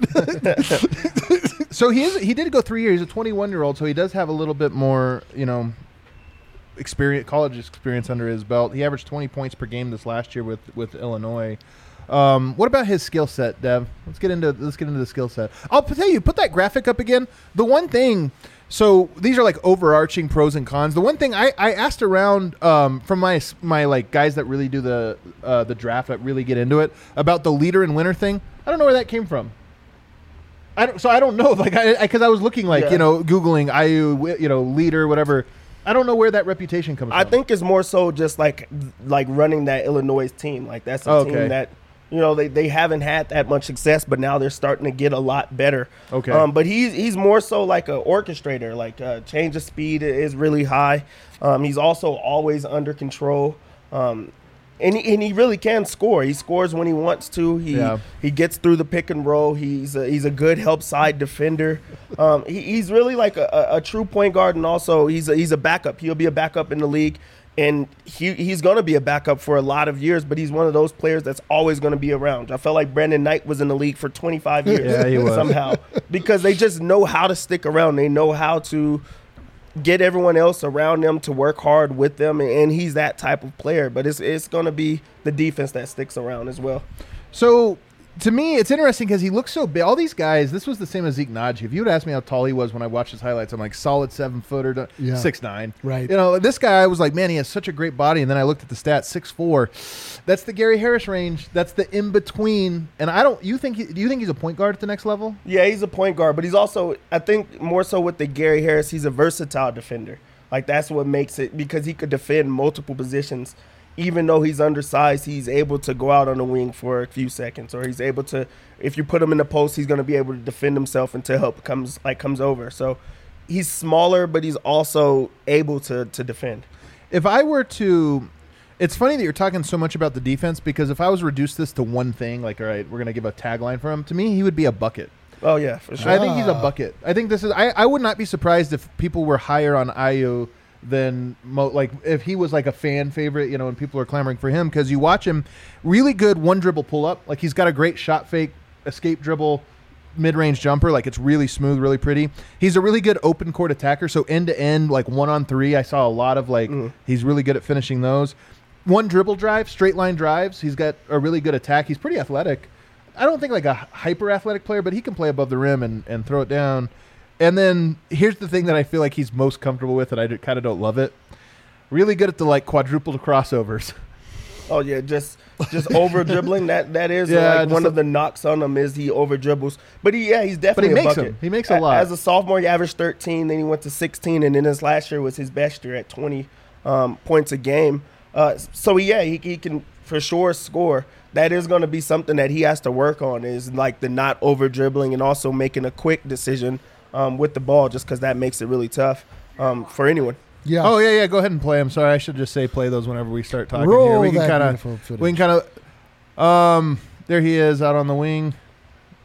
So he did go 3 years. He's a 21-year-old, so he does have a little bit more, college experience under his belt. He averaged 20 points per game this last year with Illinois. What about his skill set, Dev? Let's get into the skill set. I'll tell you, put that graphic up again. The one thing, so these are like overarching pros and cons. The one thing I asked around from my like guys that really do the draft, that really get into it, about the leader and winner thing. I don't know where that came from. I don't know, like, because I was looking like Googling IU, leader, whatever. I don't know where that reputation comes from. I think it's more so just like running that Illinois team. Like, that's a team that they haven't had that much success, but now they're starting to get a lot better. Okay. But he's more so like an orchestrator. Like, change of speed is really high. He's also always under control. And he really can score. He scores when he wants to. He gets through the pick and roll. He's a good help side defender. He's really like a true point guard, and also he's a backup. He'll be a backup in the league, and he's going to be a backup for a lot of years. But he's one of those players that's always going to be around. I felt like Brandon Knight was in the league for 25 years. Yeah, he was. Somehow, because they just know how to stick around. They know how to get everyone else around them to work hard with them, and he's that type of player. But it's going to be the defense that sticks around as well. So, to me, it's interesting because he looks so big. All these guys, this was the same as Zeke Naji. If you would ask me how tall he was when I watched his highlights, I'm like, solid 7-footer, 6'9". Right. This guy, I was like, man, he has such a great body. And then I looked at the stats, 6'4". That's the Gary Harris range. That's the in-between. And do you think he's a point guard at the next level? Yeah, he's a point guard, but he's also, I think, more so with the Gary Harris, he's a versatile defender. Like, that's what makes it, because he could defend multiple positions. Even though he's undersized, he's able to go out on the wing for a few seconds, or he's able to, if you put him in the post, he's going to be able to defend himself until help comes over. So he's smaller, but he's also able to defend. If I were to, it's funny that you're talking so much about the defense, because if I was to reduce this to one thing, like, all right, we're going to give a tagline for him, to me, he would be a bucket. Oh, yeah, for sure. I think he's a bucket. I think this is, I would not be surprised if people were higher on Ayo than like if he was like a fan favorite, and people are clamoring for him, because you watch him, really good one dribble pull up, like he's got a great shot fake, escape dribble, mid-range jumper, like it's really smooth, really pretty. He's a really good open court attacker, so end to end, like 1-on-3, I saw a lot of he's really good at finishing those. One dribble drive, straight line drives, he's got a really good attack. He's pretty athletic. I don't think like a hyper athletic player, but he can play above the rim and throw it down. And then here's the thing that I feel like he's most comfortable with, and I kind of don't love it. Really good at the like quadruple crossovers. Oh yeah, just over dribbling. That is one of the knocks on him is he over dribbles. But he's definitely a bucket. He makes a lot. As a sophomore, he averaged 13. Then he went to 16, and then his last year was his best year at 20 points a game. So he can for sure score. That is going to be something that he has to work on, is like the not over dribbling and also making a quick decision with the ball, just because that makes it really tough for anyone. Yeah. Oh yeah. Go ahead and play. I'm sorry, I should just say play those whenever we start talking Roll here. We can that kind of. There he is out on the wing.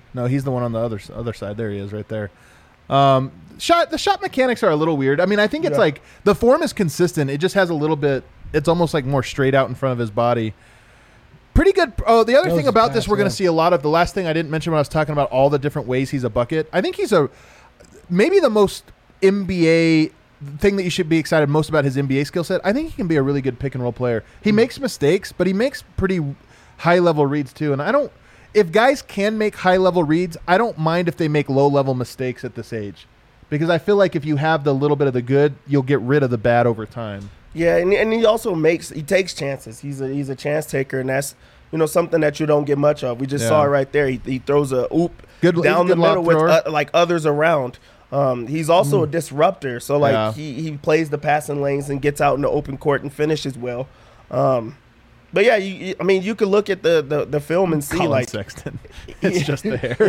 No, he's the one on the other side. There he is, right there. The shot mechanics are a little weird. I mean, I think it's like the form is consistent. It just has a little bit. It's almost like more straight out in front of his body. Pretty good. Oh, the other thing about this, we're going to see a lot of. The last thing I didn't mention when I was talking about all the different ways he's a bucket. I think he's maybe the most NBA thing that you should be excited most about his NBA skill set. I think he can be a really good pick and roll player. He makes mistakes, but he makes pretty high level reads too. And if guys can make high level reads, I don't mind if they make low level mistakes at this age, because I feel like if you have the little bit of the good, you'll get rid of the bad over time. Yeah, and he also takes chances. He's a chance taker, and that's something that you don't get much of. We just saw it right there. He throws a oop down the middle with like others around. He's also a disruptor, so like he plays the passing lanes and gets out in the open court and finishes well. But yeah, you could look at the film and see Colin like Sexton. It's just the hair.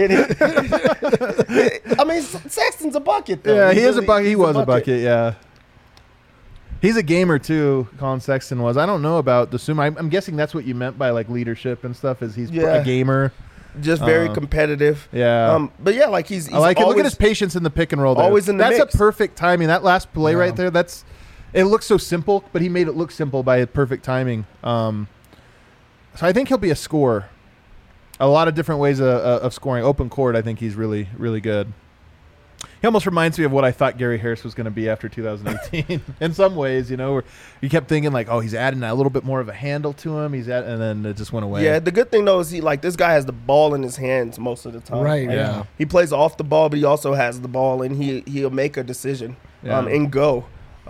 I mean, Sexton's a bucket though. Yeah, he is a bucket. He was a bucket. Yeah. He's a gamer too. Colin Sexton was. I don't know about the Suma. I'm guessing that's what you meant by like leadership and stuff. Is he's a gamer, just very competitive. Yeah. But yeah, like he's I like it. Look at his patience in the pick and roll. There. Always in the That's mix. a perfect timing. That last play right there. It looks so simple, but he made it look simple by perfect timing. So I think he'll be a scorer. A lot of different ways of scoring. Open court, I think he's really, really good. He almost reminds me of what I thought Gary Harris was going to be after 2018. In some ways, where you kept thinking like, oh, he's adding a little bit more of a handle to him. And then it just went away. Yeah, the good thing though is this guy has the ball in his hands most of the time. Right. Like, yeah. He plays off the ball, but he also has the ball, and he'll make a decision and go.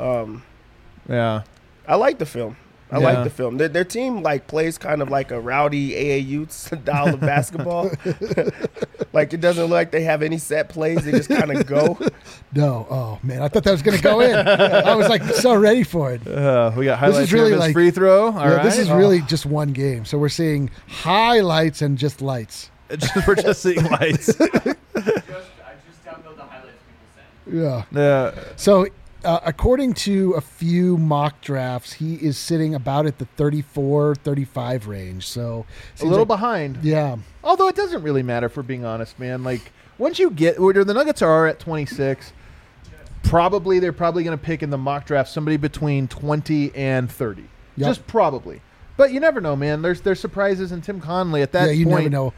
Yeah. I like the film. I like the film. Their team plays kind of like a rowdy AAU style of basketball. Like it doesn't look like they have any set plays. They just kind of go. No. Oh man, I thought that was going to go in. I was like so ready for it. We got highlights really of his free throw. All right. This is really just one game. So we're seeing highlights and just lights. We're just seeing lights. I just download the highlights people send. Yeah. So according to a few mock drafts, he is sitting about at the 34, 35 range. So a little behind. Yeah. Although it doesn't really matter, if we're being honest, man. Like once you get where the Nuggets are at 26, they're probably going to pick in the mock draft somebody between 20 and 30. Yep. Just probably. But you never know, man. There's surprises, and Tim Conley at that point. Yeah, you never know.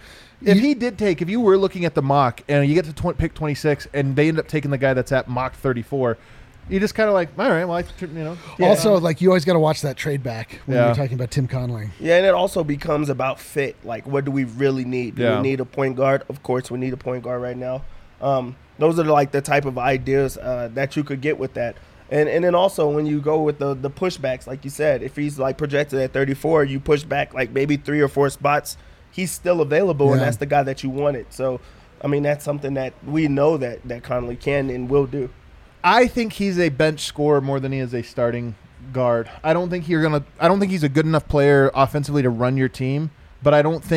If you were looking at the mock and you get to pick 26 and they end up taking the guy that's at mock 34, you just kind of like, all right, well, Also, you always got to watch that trade back when you're talking about Tim Conley. Yeah, and it also becomes about fit. Like, what do we really need? Do we need a point guard? Of course, we need a point guard right now. Those are the type of ideas that you could get with that. And then also when you go with the pushbacks, like you said, if he's projected at 34, you push back maybe 3 or 4 spots, he's still available, and that's the guy that you wanted. So, I mean, that's something that we know that Conley can and will do. I think he's a bench scorer more than he is a starting guard. I don't think he's a good enough player offensively to run your team, but I don't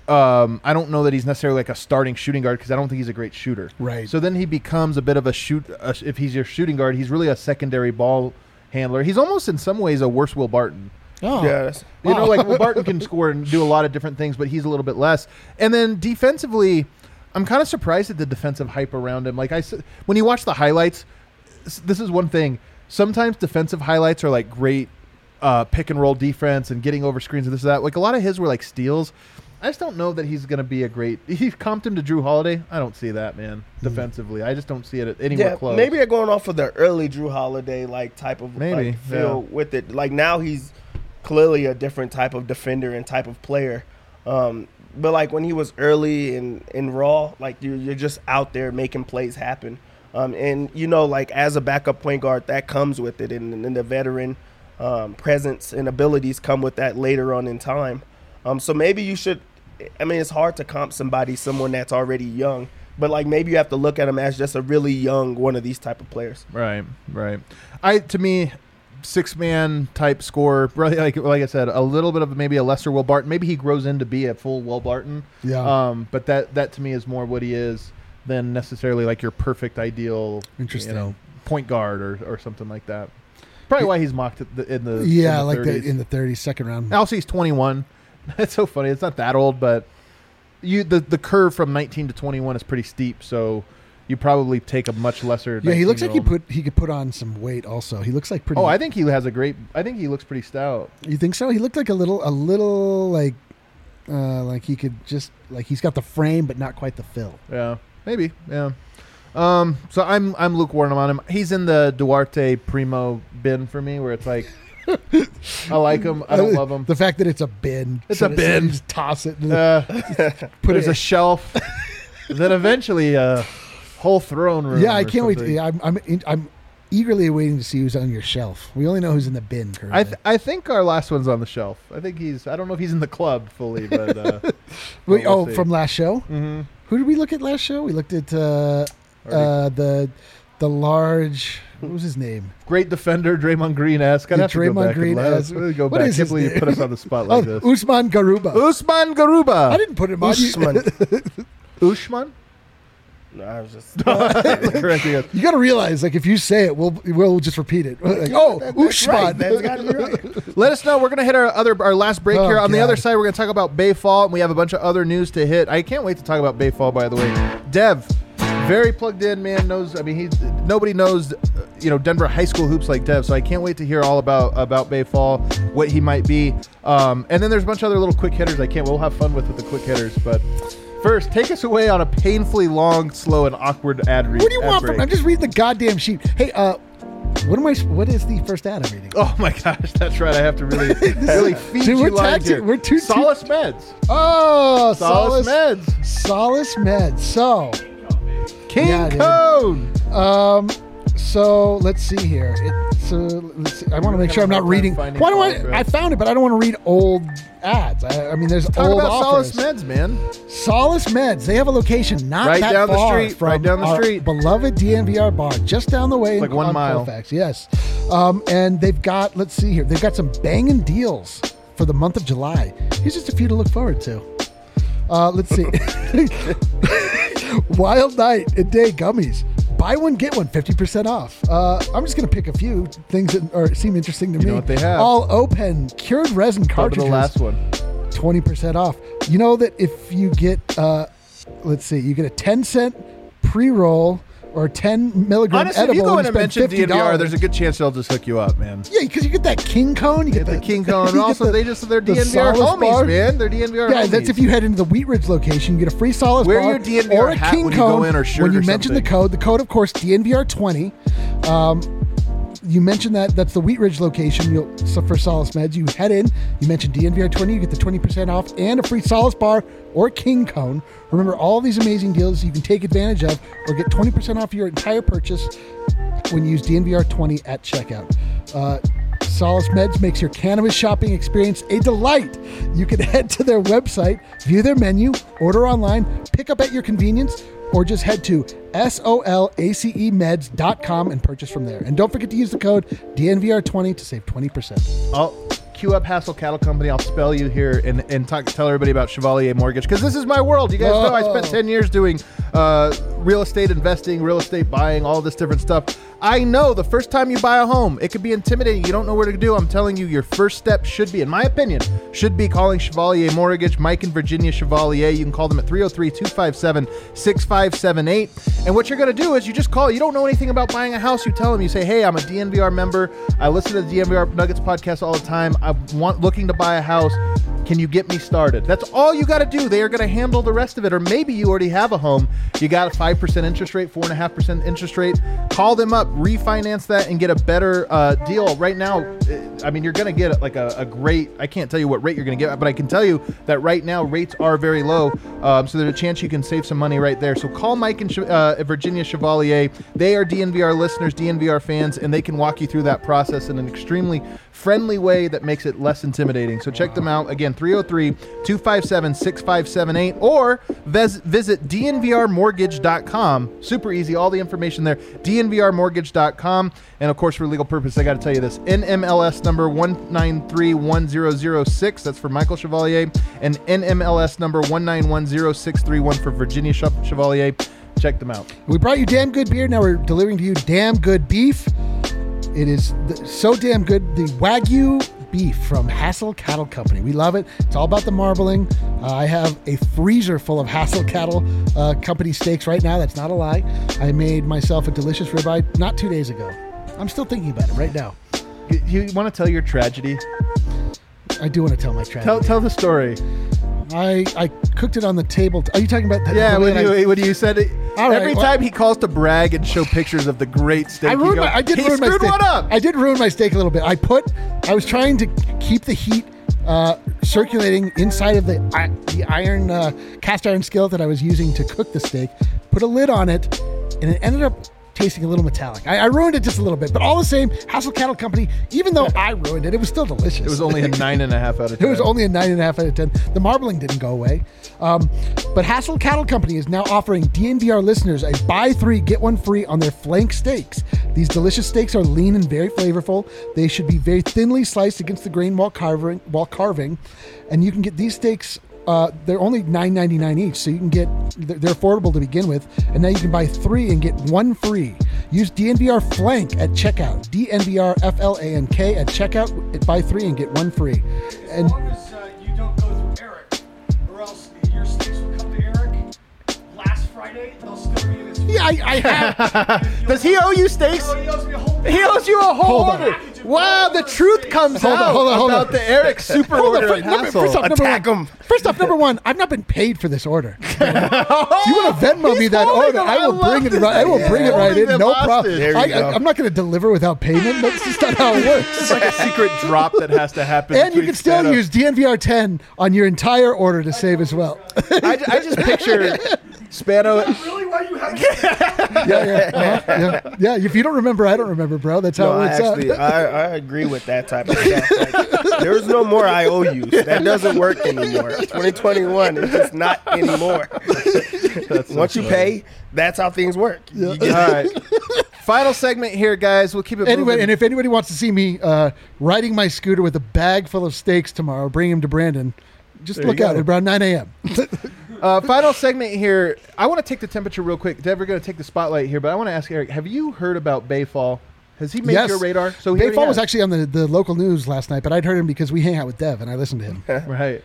know that he's necessarily like a starting shooting guard, because I don't think he's a great shooter. Right. So then he becomes a bit of if he's your shooting guard, he's really a secondary ball handler. He's almost in some ways a worse Will Barton. Oh. Yes. Will Barton can score and do a lot of different things, but he's a little bit less. And then defensively, I'm kind of surprised at the defensive hype around him. Like when you watch the highlights, this is one thing. Sometimes defensive highlights are like great pick and roll defense and getting over screens and this and that. Like a lot of his were like steals. I just don't know that he's going to be a great. He comped him to Drew Holiday. I don't see that, man. Defensively, I just don't see it anywhere close. Maybe they're going off of the early Drew Holiday type of feel with it. Like now he's clearly a different type of defender and type of player. But when he was early in Raw, you're just out there making plays happen. And as a backup point guard, that comes with it, and the veteran presence and abilities come with that later on in time. So maybe you should. I mean, it's hard to comp someone that's already young, but maybe you have to look at him as just a really young one of these type of players. Right. To me, 6-man type scorer, really, like I said, a little bit of maybe a lesser Will Barton. Maybe he grows into be a full Will Barton. Yeah. But that to me is more what he is than necessarily your perfect ideal, point guard or something like that. Probably why he's mocked in the 30s. In the 30s, second round. Also, he's 21. It's so funny. It's not that old, but the curve from 19 to 21 is pretty steep, so you probably take a much lesser. Yeah, he looks like 19-year-old. he could put on some weight. Also, he looks like pretty. Oh, I think he he looks pretty stout. You think so? He looked like a little like he could just like he's got the frame but not quite the fill. Yeah, maybe. Yeah. So I'm lukewarm on him. He's in the Duarte Primo bin for me, where it's like I like him, I don't love him. The fact that it's a bin. It's a bin. You just toss it. Put it as a shelf. Then eventually a whole throne room. Yeah, I or can't wait. something. I'm eagerly waiting to see who's on your shelf. We only know who's in the bin currently. I think our last one's on the shelf. I think I don't know if he's in the club fully, but Wait, we'll see. from last show? Mm-hmm. Who did we look at last show? We looked at the large. What was his name? Great defender, Draymond Green-esque. I'd have to go Draymond back and Green-esque. go What back. is I his can't believe you name? put us on the spot like this. Usman Garuba. Usman Garuba. I didn't put him on. Usman. Usman? No, I was just. Correcting us. You got to realize, like, if you say it, we'll just repeat it. Like, That's Usman. right. That's got to be right. Let us know. We're going to hit our last break Oh, here. On the God. other side, we're going to talk about Bay Fall, and we have a bunch of other news to hit. I can't wait to talk about Bay Fall, by the way. Dev, very plugged in, man. Nobody knows, Denver high school hoops like Dev, so I can't wait to hear all about Bay Fall, what he might be. And then there's a bunch of other little quick hitters we'll have fun with the quick hitters, but first, take us away on a painfully long, slow, and awkward ad read. What do you want from me? I'm just reading the goddamn sheet. Hey, what is the first ad I'm reading? Oh my gosh, that's right. I have to really feed Dude, you we're lines taxing- here. we're too- Solace Meds. Oh, Solace Meds. Solace Meds. So, King Yeah, dude. Cone. so let's see here. Let's see. I want to make sure I'm not hard time reading. finding Why do Solace Meds. I found it, but I don't want to read old ads. I mean, there's Talk old about offers. Solace Meds, man. Solace Meds. They have a location not Right that down the far street, from right down the our street. beloved DNVR bar, just down the way. Like 1 on mile. Colfax, yes. And they've got. Let's see here. They've got some banging deals for the month of July. Here's just a few to look forward to. Let's see. Wild Night and Day gummies. Buy one, get one, 50% off. I'm just going to pick a few things that seem interesting to me. know what they have. All Open cured resin Go to cartridges. the last one. 20% off. You know that if you get, let's see, you get a 10-cent pre-roll or 10 milligram Honestly, edible. if you go in and and spend mention $50, DNVR, there's a good chance they'll just hook you up, man. Yeah, because you get that King Cone. You get Get the King Cone. you get Also, they're the DNVR Solace homies, bar. man. They're DNVR Yeah, homies. that's if you head into the Wheat Ridge location, you get a free Solace Wear bar your DNVR or a hat King when you go Cone in, or shirt when you or mention the something. code, of course, DNVR20. You mentioned that's the Wheat Ridge location for Solace Meds. You head in, you mention DNVR20, you get the 20% off and a free Solace bar or King Cone. Remember, all these amazing deals you can take advantage of or get 20% off your entire purchase when you use DNVR20 at checkout. Solace Meds makes your cannabis shopping experience a delight. You can head to their website, view their menu, order online, pick up at your convenience, or just head to solacemeds.com and purchase from there. And don't forget to use the code DNVR20 to save 20%. I'll queue up Hassel Cattle Company. I'll spell you here and tell everybody about Chevalier Mortgage, because this is my world. You guys know I spent 10 years doing real estate investing, real estate buying, all this different stuff. I know the first time you buy a home, it could be intimidating. You don't know where to do. I'm telling you, your first step should be, in my opinion, should be calling Chevalier Mortgage. Mike and Virginia Chevalier. You can call them at 303-257-6578. And what you're going to do is you just call. You don't know anything about buying a house. You tell them, you say, hey, I'm a DNVR member. I listen to the DNVR Nuggets podcast all the time. I'm looking to buy a house. Can you get me started? That's all you got to do. They are going to handle the rest of it. Or maybe you already have a home. You got a 5% interest rate, 4.5% interest rate. Call them up, refinance that, and get a better deal. Right now, I mean, you're going to get like a great, I can't tell you what rate you're going to get, but I can tell you that right now rates are very low. So there's a chance you can save some money right there. So call Mike and Virginia Chevalier. They are DNVR listeners, DNVR fans, and they can walk you through that process in an extremely friendly way that makes it less intimidating. So check them out. Again, 303-257-6578, or visit dnvrmortgage.com. Super easy. All the information there. dnvrmortgage.com. And of course, for legal purpose, I got to tell you this. NMLS number 1931006. That's for Michael Chevalier. And NMLS number 1910631 for Virginia Chevalier. Check them out. We brought you damn good beer. Now we're delivering to you damn good beef. It is so damn good. The Wagyu beef from Hassel Cattle Company. We love it. It's all about the marbling. I have a freezer full of Hassel Cattle Company steaks right now. That's not a lie. I made myself a delicious ribeye not 2 days ago. I'm still thinking about it right now. You want to tell your tragedy? I do want to tell my tragedy. Tell the story. I cooked it on the table. Are you talking about that? Yeah, when you said it. Every time he calls to brag and show pictures of the great steak, I did ruin my steak. One up. I did ruin my steak a little bit. I was trying to keep the heat circulating inside of the iron cast iron skillet that I was using to cook the steak. Put a lid on it, and it ended up tasting a little metallic. I ruined it just a little bit, but all the same, Hassel Cattle Company, even though I ruined it, it was still delicious. It was only a 9.5 out of 10. It was only a 9.5 out of 10. The marbling didn't go away. But Hassel Cattle Company is now offering DNVR listeners a buy 3, get 1 free on their flank steaks. These delicious steaks are lean and very flavorful. They should be very thinly sliced against the grain while carving. And you can get these steaks. They're only $9.99 each, so you can get, they're affordable to begin with, and now you can buy 3 and get 1 free. Use DNVR Flank at checkout, DNVR FLANK at checkout, buy 3 and get 1 free. And as long as you don't go through Eric, or else your steaks will come to Eric. Last Friday, they'll still be in his. yeah, I have. Does he owe you steaks? Oh, he owes me a whole. He owes you a whole Hold on. order. Wow, the truth comes Hold on, out hold on, hold about on. the Eric super order at Hassel. First off, number one, I've not been paid for this order. If you want to Venmo me that holding order, them. I will I bring love it right. I will this. bring it right Holding in. them No hostage. problem. There you go. I'm not going to deliver without payment. That's just not how it works. It's like a secret drop that has to happen. And you between can still stand-up. use DNVR 10 on your entire order to save as well. I just picture Spano. Really? Why you haven't? Yeah. If you don't remember, I don't remember, bro. That's how No, it works actually, out. I agree with that type of stuff. Like, there's no more IOUs. That doesn't work anymore. 2021, it's just not anymore. Once you pay, that's how things work. You All get- right. Final segment here, guys. We'll keep it Anyway, moving. and if anybody wants to see me riding my scooter with a bag full of steaks tomorrow, bring him to Brandon. Just There look you out go. at around 9 a.m. Final segment here. I want to take the temperature real quick. Dev, we're going to take the spotlight here, but I want to ask Eric, have you heard about Bayfall? Has he made Yes. your radar? So he already Bayfall was has. actually on the local news last night, but I'd heard him because we hang out with Dev and I listened to him. Right.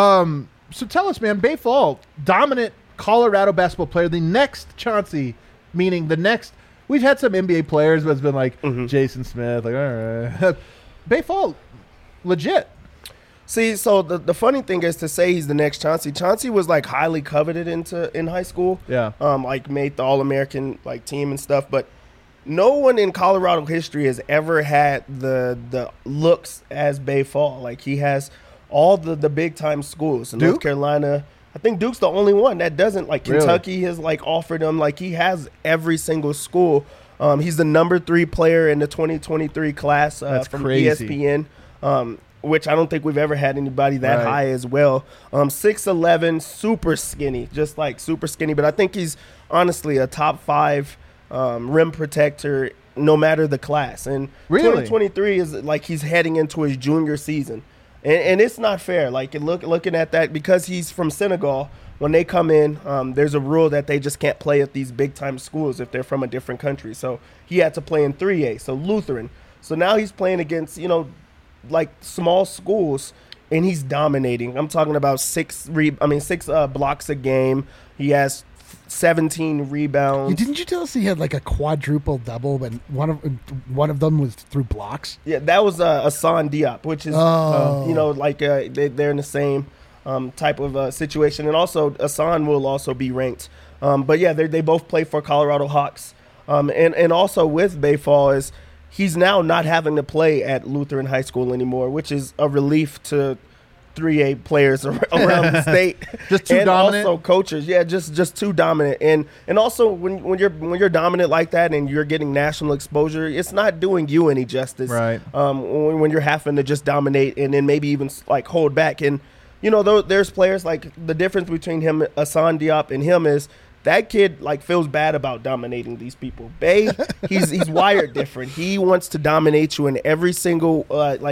So tell us, man, Bayfall, dominant Colorado basketball player, the next Chauncey, meaning the next. We've had some NBA players, but it's been like Jason Smith, like, all right. Bayfall, legit. See, so the funny thing is to say he's the next Chauncey. Chauncey was like highly coveted in high school. Yeah. Like made the All-American like team and stuff, but no one in Colorado history has ever had the looks as Bayfall. Like he has all the big time schools. In North Duke? Carolina, I think Duke's the only one that doesn't. Like Really? Kentucky has like offered him. Like he has every single school. He's the number 3 player in the 2023 class That's from crazy. ESPN. Which I don't think we've ever had anybody that Right. high as well. 6'11", super skinny, just like super skinny. But I think he's honestly a top 5 rim protector, no matter the class. And Really? 2023 is like he's heading into his junior season, and it's not fair. Like looking at that, because he's from Senegal. When they come in, there's a rule that they just can't play at these big time schools if they're from a different country. So he had to play in 3A, so Lutheran. So now he's playing against like small schools, and he's dominating. I'm talking about 6 blocks a game. He has 17 rebounds. Didn't you tell us he had like a quadruple double, but one of them was through blocks? Yeah, that was Hassan Diop, which is they're in the same type of situation, and also Hassan will also be ranked. But yeah, they both play for Colorado Hawks, and also with Bayfall is he's now not having to play at Lutheran High School anymore, which is a relief to 3A players around the state. Just too and dominant? Also coaches, yeah, just too dominant. And also when you're dominant like that and you're getting national exposure, it's not doing you any justice. Right. When you're having to just dominate and then maybe even like hold back. And there's players like the difference between him, Hassan Diop, and him is that kid like feels bad about dominating these people. Bay, he's wired different. He wants to dominate you in every single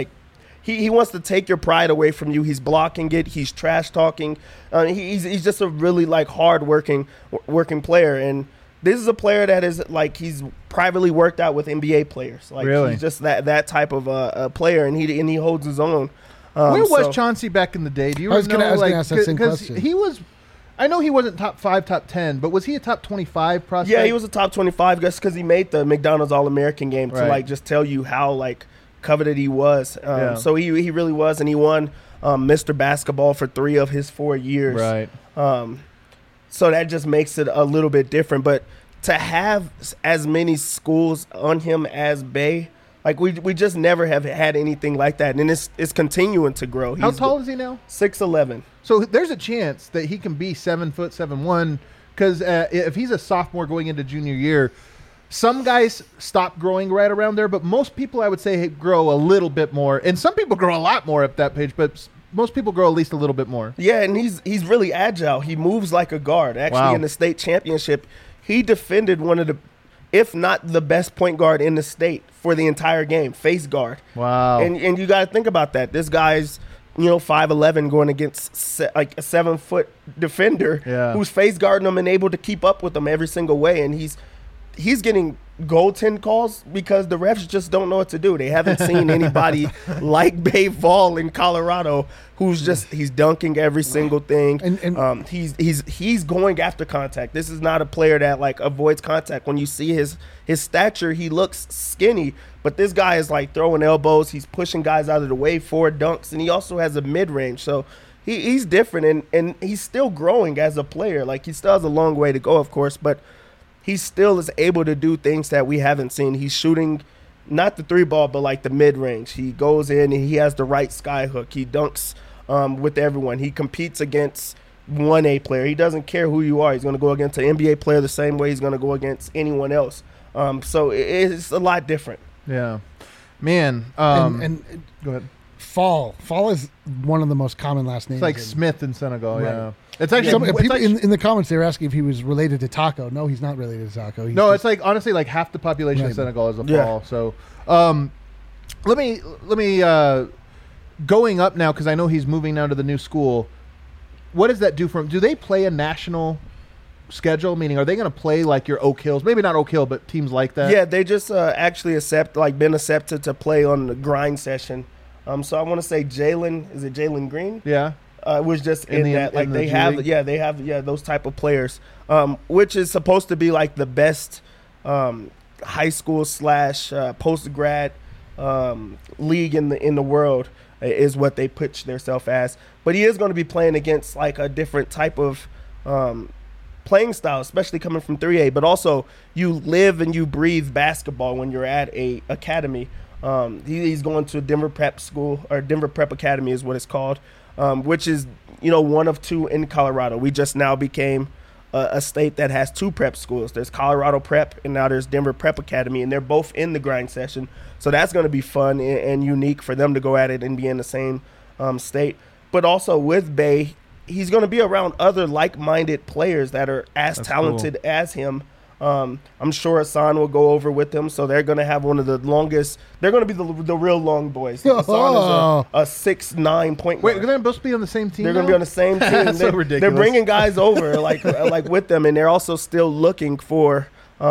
He wants to take your pride away from you. He's blocking it. He's trash talking. He's just a really like hard working player. And this is a player that is like he's privately worked out with NBA players. Like Really? he's just that type of player, and he holds his own. Where was Chauncey back in the day? Do you I was know? gonna ask that same Because question. he was. I know he wasn't top 5, top 10, but was he a top 25 prospect? Yeah, he was a top 25 just because he made the McDonald's All-American game to Right. like just tell you how like coveted he was. Yeah. So he really was, and he won Mr. Basketball for 3 of his 4 years. Right. So that just makes it a little bit different. But to have as many schools on him as Bay, like we just never have had anything like that, and it's continuing to grow. How tall is he now? 6'11". So there's a chance that he can be 7 foot 7'1", because if he's a sophomore going into junior year, some guys stop growing right around there, but most people I would say grow a little bit more, and some people grow a lot more at that page, but most people grow at least a little bit more. Yeah, and he's really agile. He moves like a guard. Actually, Wow. in the state championship, he defended one of the, if not the best point guard in the state for the entire game, face guard. Wow. And you got to think about that. This guy's 5'11", going against like a 7 foot defender who's face guarding him and able to keep up with him every single way. And he's getting goaltend calls because the refs just don't know what to do. They haven't seen anybody like Bay Fall in Colorado who's he's dunking every single thing. And He's going after contact. This is not a player that like avoids contact. When you see his stature, he looks skinny, but this guy is like throwing elbows. He's pushing guys out of the way for dunks, and he also has a mid-range. So he's different, and he's still growing as a player. Like he still has a long way to go, of course, but he still is able to do things that we haven't seen. He's shooting not the 3-ball, but like the mid-range. He goes in and he has the right sky hook. He dunks with everyone. He competes against 1A player. He doesn't care who you are. He's going to go against an NBA player the same way he's going to go against anyone else. So it's a lot different. Yeah. Man. and go ahead. Fall is one of the most common last names. It's like in- Smith in Senegal, Right. yeah. It's actually Some, it's people like- in the comments they were asking if he was related to Taco. No, he's not related to Taco. He's no, just- it's like honestly like half the population of Right. Senegal is a Yeah. fall. So let me going up now, because I know he's moving now to the new school. What does that do for him? Do they play a national schedule? Meaning, are they going to play like your Oak Hills? Maybe not Oak Hill, but teams like that. Yeah, they just actually been accepted to play on the grind session. So I want to say Jalen Green? Yeah. Was just In in the- that. Like in the they G have, League? they have those type of players, which is supposed to be like the best high school / post grad league in the world is what they pitch themselves as. But he is going to be playing against like a different type of playing style, especially coming from 3A. But also, you live and you breathe basketball when you're at a academy. He's going to Denver Prep School, or Denver Prep Academy is what it's called, which is one of 2 in Colorado. We just now became a state that has 2 prep schools. There's Colorado Prep, and now there's Denver Prep Academy, and they're both in the grind session. So that's going to be fun and unique for them to go at it and be in the same state. But also with Bay, he's going to be around other like-minded players that are as talented as him. I'm sure Hassan will go over with them, so they're going to have one of the longest. They're going to be the real long boys. Hassan is a 6'9" point Wait, guard. they're supposed to be on the same team. They're going to now? be on the same team. That's so They're ridiculous. bringing guys over like with them, and they're also still looking for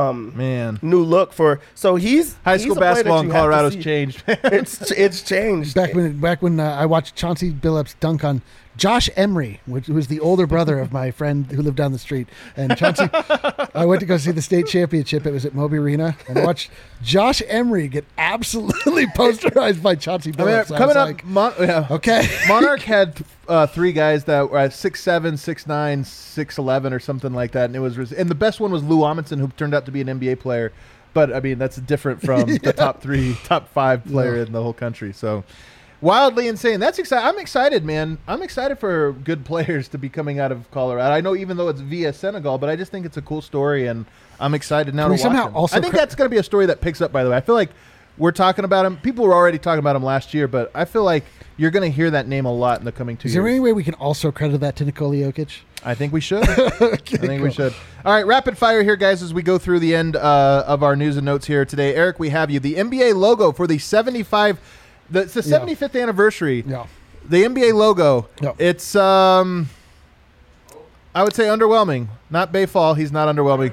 Man, new look for. So he's high he's school a player that basketball in you have to Colorado's see. changed. It's changed. back when I watched Chauncey Billups dunk on Josh Emery, who was the older brother of my friend who lived down the street. And Chauncey, I went to go see the state championship. It was at Moby Arena, and I watched Josh Emery get absolutely posterized by Chauncey I mean, Billups. I coming was up, like, okay. Monarch had 3 guys that were at 6'7", 6'9", 6'11", or something like that, and and the best one was Lou Amundsen, who turned out to be an NBA player. But I mean, that's different from the top 5 player in the whole country. So wildly insane. That's exciting. I'm excited, man. I'm excited for good players to be coming out of Colorado. I know, even though it's via Senegal, but I just think it's a cool story, and I'm excited now Can we to watch somehow him. also I think that's going to be a story that picks up. By the way, I feel like we're talking about him. People were already talking about him last year, but I feel like you're going to hear that name a lot in the coming 2 Is years. there any way we can also credit that to Nikola Jokic? I think we should. I think we should. All right, rapid fire here, guys, as we go through the end of our news and notes here today. Eric, we have you. The NBA logo for the 75. It's the 75th anniversary. Yeah. The NBA logo. Yeah. It's I would say underwhelming. Not Bayfall. He's not underwhelming.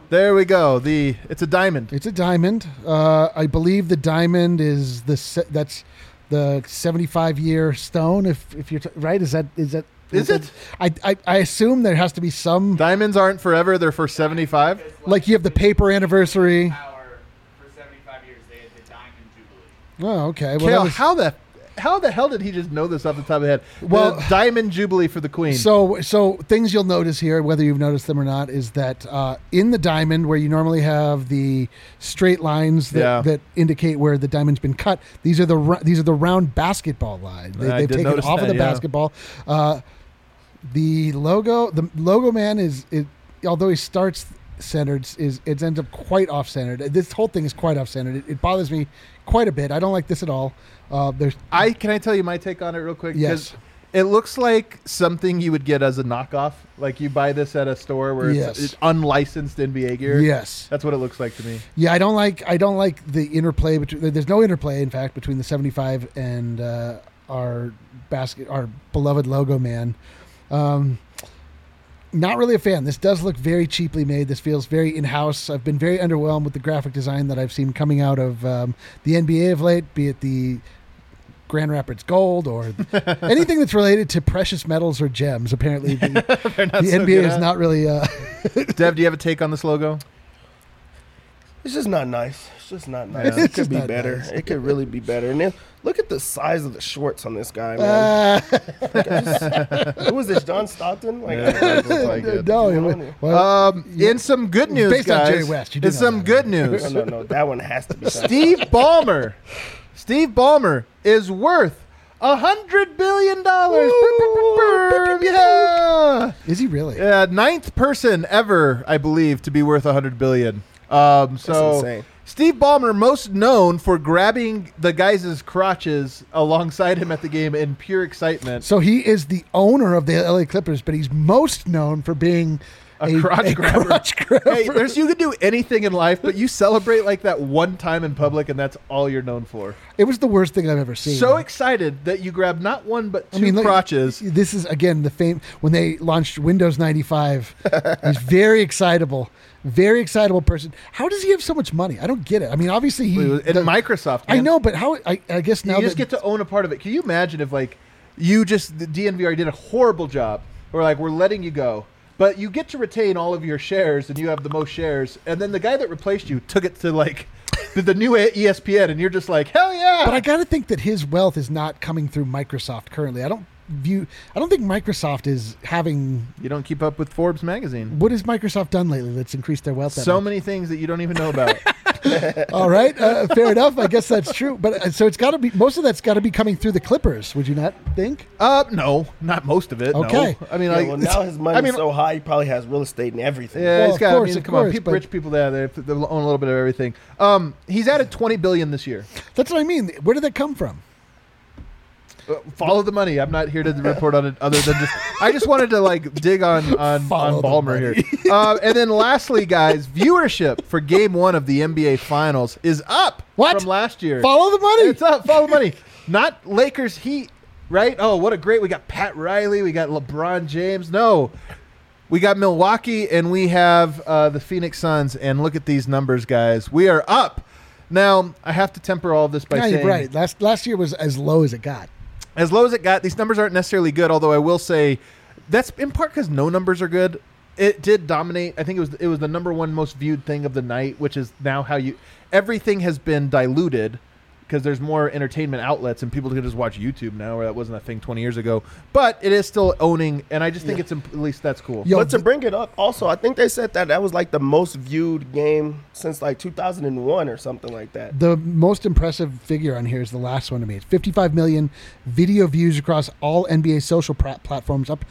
There we go. It's a diamond. It's a diamond. I believe the diamond is that's the 75-year stone. If you're right, is that? Is it? I assume there has to be some. Diamonds aren't forever; they're for 75. Like you have the paper anniversary. Power for 75 years. They had the Diamond Jubilee. Oh, okay. Well, Kale, that was- how the hell did he just know this off the top of the head? Well- The Diamond Jubilee for the Queen. So things you'll notice here, whether you've noticed them or not, is that in the diamond, where you normally have the straight lines that indicate where the diamond's been cut, these are the round basketball lines. They've taken it off of the basketball. The logo man is although he starts centered, it ends up quite off centered. This whole thing is quite off centered. It bothers me quite a bit. I don't like this at all. Can I tell you my take on it real quick? Yes. It looks like something you would get as a knockoff. Like you buy this at a store where it's unlicensed NBA gear. Yes. That's what it looks like to me. Yeah, I don't like the interplay between. There's no interplay, in fact, between the 75 and our beloved logo man. Not really a fan. This does look very cheaply made. This feels very in-house. I've been very underwhelmed with the graphic design that I've seen coming out of the NBA of late, be it the Grand Rapids Gold or anything that's related to precious metals or gems. Apparently, the NBA is not really. Dev, do you have a take on this logo? It's just not nice. It's just not nice. It could be better. Nice. It could really be better. And then look at the size of the shorts on this guy, man. Who is this, John Stockton? Like it. No. In some good news, based guys. on Jerry West, you do in know some that. good news. No. That one has to be done. Steve Ballmer. Steve Ballmer is worth $100 billion. Yeah. Is he really? Ninth person ever, I believe, to be worth $100 billion. That's insane. Steve Ballmer, most known for grabbing the guys' crotches alongside him at the game in pure excitement. So he is the owner of the LA Clippers, but he's most known for being a crotch grabber. Crotch grabber. Hey, you can do anything in life, but you celebrate like that one time in public, and that's all you're known for. It was the worst thing I've ever seen. So excited that you grabbed not one but two crotches. This is, again, the fame when they launched Windows 95. He's very excitable. Very excitable person. How does he have so much money? I don't get it. I mean, obviously Microsoft. Man. I know, but how? I guess now you just get to own a part of it. Can you imagine if the DNVR did a horrible job, or we're letting you go, but you get to retain all of your shares and you have the most shares, and then the guy that replaced you took it to the new ESPN, and you're just like, hell yeah! But I got to think that his wealth is not coming through Microsoft currently. I don't think Microsoft is having. You don't keep up with Forbes magazine. What has Microsoft done lately that's increased their wealth? So many things that you don't even know about. All right, fair enough. I guess that's true. But so it's got to be, most of that's got to be coming through the Clippers. Would you not think? No, not most of it. Okay. No. I mean, now his money's so high, he probably has real estate and everything. Yeah, he's got. Of course, rich people there. They own a little bit of everything. He's added $20 billion this year. That's what I mean. Where did that come from? Follow the money. I'm not here to report on it other than I just wanted to dig on Ballmer here. And then lastly, guys, viewership for game 1 of the NBA Finals is up from last year. Follow the money. It's up. Follow the money. Not Lakers Heat, right? Oh, what a great. We got Pat Riley. We got LeBron James. No. We got Milwaukee and we have the Phoenix Suns. And look at these numbers, guys. We are up. Now, I have to temper all of this by saying. You're right. Last year was as low as it got. As low as it got, these numbers aren't necessarily good, although I will say that's in part because no numbers are good. It did dominate. I think it was the number one most viewed thing of the night, which is now everything has been diluted because there's more entertainment outlets and people can just watch YouTube now, where that wasn't a thing 20 years ago. But it is still owning, and I just think at least that's cool. But to bring it up, also, I think they said that was the most viewed game since 2001 or something like that. The most impressive figure on here is the last one to me. It's 55 million video views across all NBA social platforms, up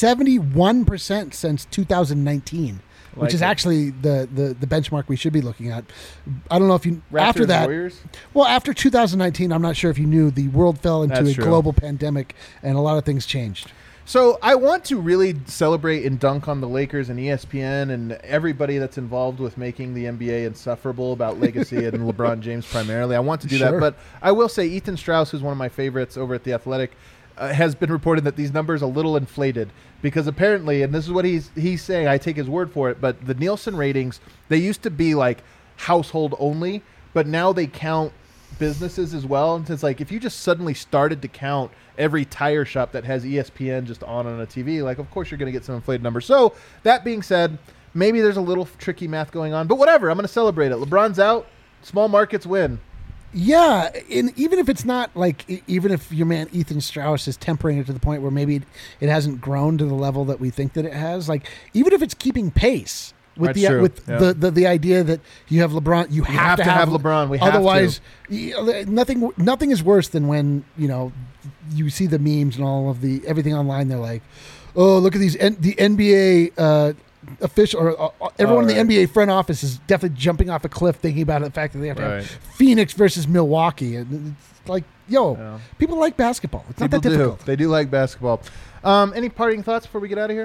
71% since 2019. Which is actually the benchmark we should be looking at. I don't know if you Raptors, after that. Warriors? Well, after 2019, I'm not sure if you knew the world fell into a global pandemic and a lot of things changed. So I want to really celebrate and dunk on the Lakers and ESPN and everybody that's involved with making the NBA insufferable about legacy and LeBron James primarily. I want to do that, but I will say Ethan Strauss, who's one of my favorites over at The Athletic, has been reported that these numbers are a little inflated because apparently, and this is what he's saying, I take his word for it, but the Nielsen ratings, they used to be like household only, but now they count businesses as well. And it's like if you just suddenly started to count every tire shop that has ESPN just on a TV, like of course you're going to get some inflated numbers. So that being said, maybe there's a little tricky math going on, but whatever. I'm going to celebrate it. LeBron's out. Small markets win. Yeah, and even if it's not like, even if your man Ethan Strauss is tempering it to the point where maybe it hasn't grown to the level that we think that it has, like even if it's keeping pace with the idea that you have LeBron, you have to have LeBron. We otherwise nothing is worse than when you see the memes and all of everything online. They're like, oh, look at these the NBA. Official or everyone in the NBA front office is definitely jumping off a cliff thinking about the fact that they have to have Phoenix versus Milwaukee, and it's like, people like basketball. It's not that difficult. They do like basketball. Any parting thoughts before we get out of here?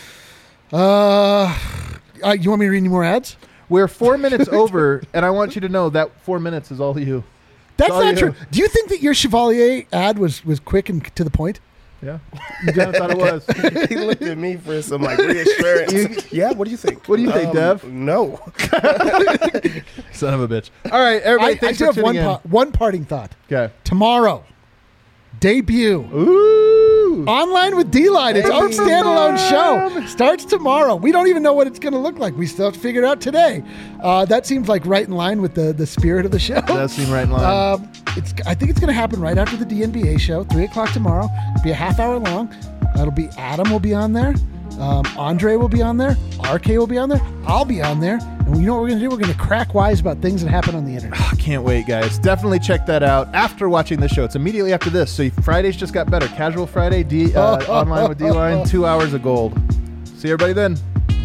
You want me to read any more ads? We're 4 minutes over, and I want you to know that 4 minutes is all you. That's not true. Do you think that your Chevalier ad was quick and to the point? Yeah, I thought it was. He looked at me for some reassurance. Yeah, what do you think? What do you think, Dev? No. Son of a bitch. All right, everybody, thanks for tuning in. One parting thought. Okay. Tomorrow, debut. Ooh. Online with D-Line. Its own standalone show. Starts tomorrow. We don't even know what it's going to look like. We still have to figure it out today. That seems like right in line with the spirit of the show. That seems right in line. I think it's going to happen right after the DNBA show, 3 o'clock tomorrow. It'll be a half hour long. That'll be Adam will be on there. Andre will be on there. RK will be on there. I'll be on there. And you know what we're going to do? We're going to crack wise about things that happen on the internet. Oh, can't wait, guys. Definitely check that out after watching this show. It's immediately after this. So Fridays just got better. Casual Friday, online with D-Line, 2 hours of gold. See everybody then.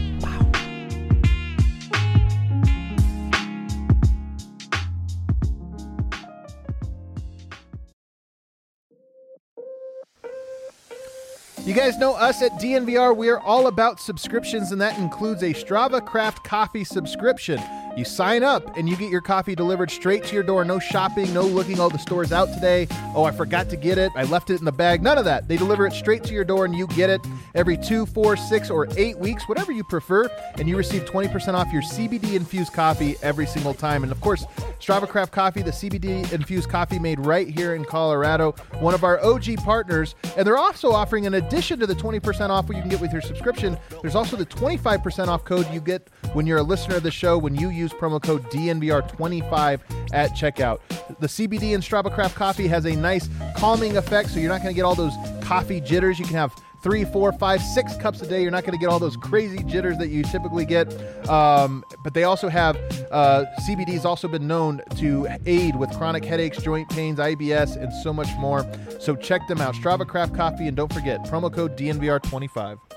You guys know us at DNVR. We are all about subscriptions, and that includes a Strava Craft coffee subscription. You sign up, and you get your coffee delivered straight to your door. No shopping, no looking, oh, the store's out today. Oh, I forgot to get it. I left it in the bag. None of that. They deliver it straight to your door, and you get it every 2, 4, 6, or 8 weeks, whatever you prefer, and you receive 20% off your CBD-infused coffee every single time. And, of course, Strava Craft Coffee, the CBD-infused coffee made right here in Colorado, one of our OG partners, and they're also offering, in addition to the 20% off what you can get with your subscription, there's also the 25% off code you get when you're a listener of the show when you use promo code DNVR25 at checkout. The CBD in Strava Craft Coffee has a nice calming effect, so you're not going to get all those coffee jitters. You can have 3, 4, 5, 6 cups a day. You're not going to get all those crazy jitters that you typically get. But they also have CBD has also been known to aid with chronic headaches, joint pains, IBS, and so much more. So check them out. Strava Craft Coffee, and don't forget, promo code DNVR25.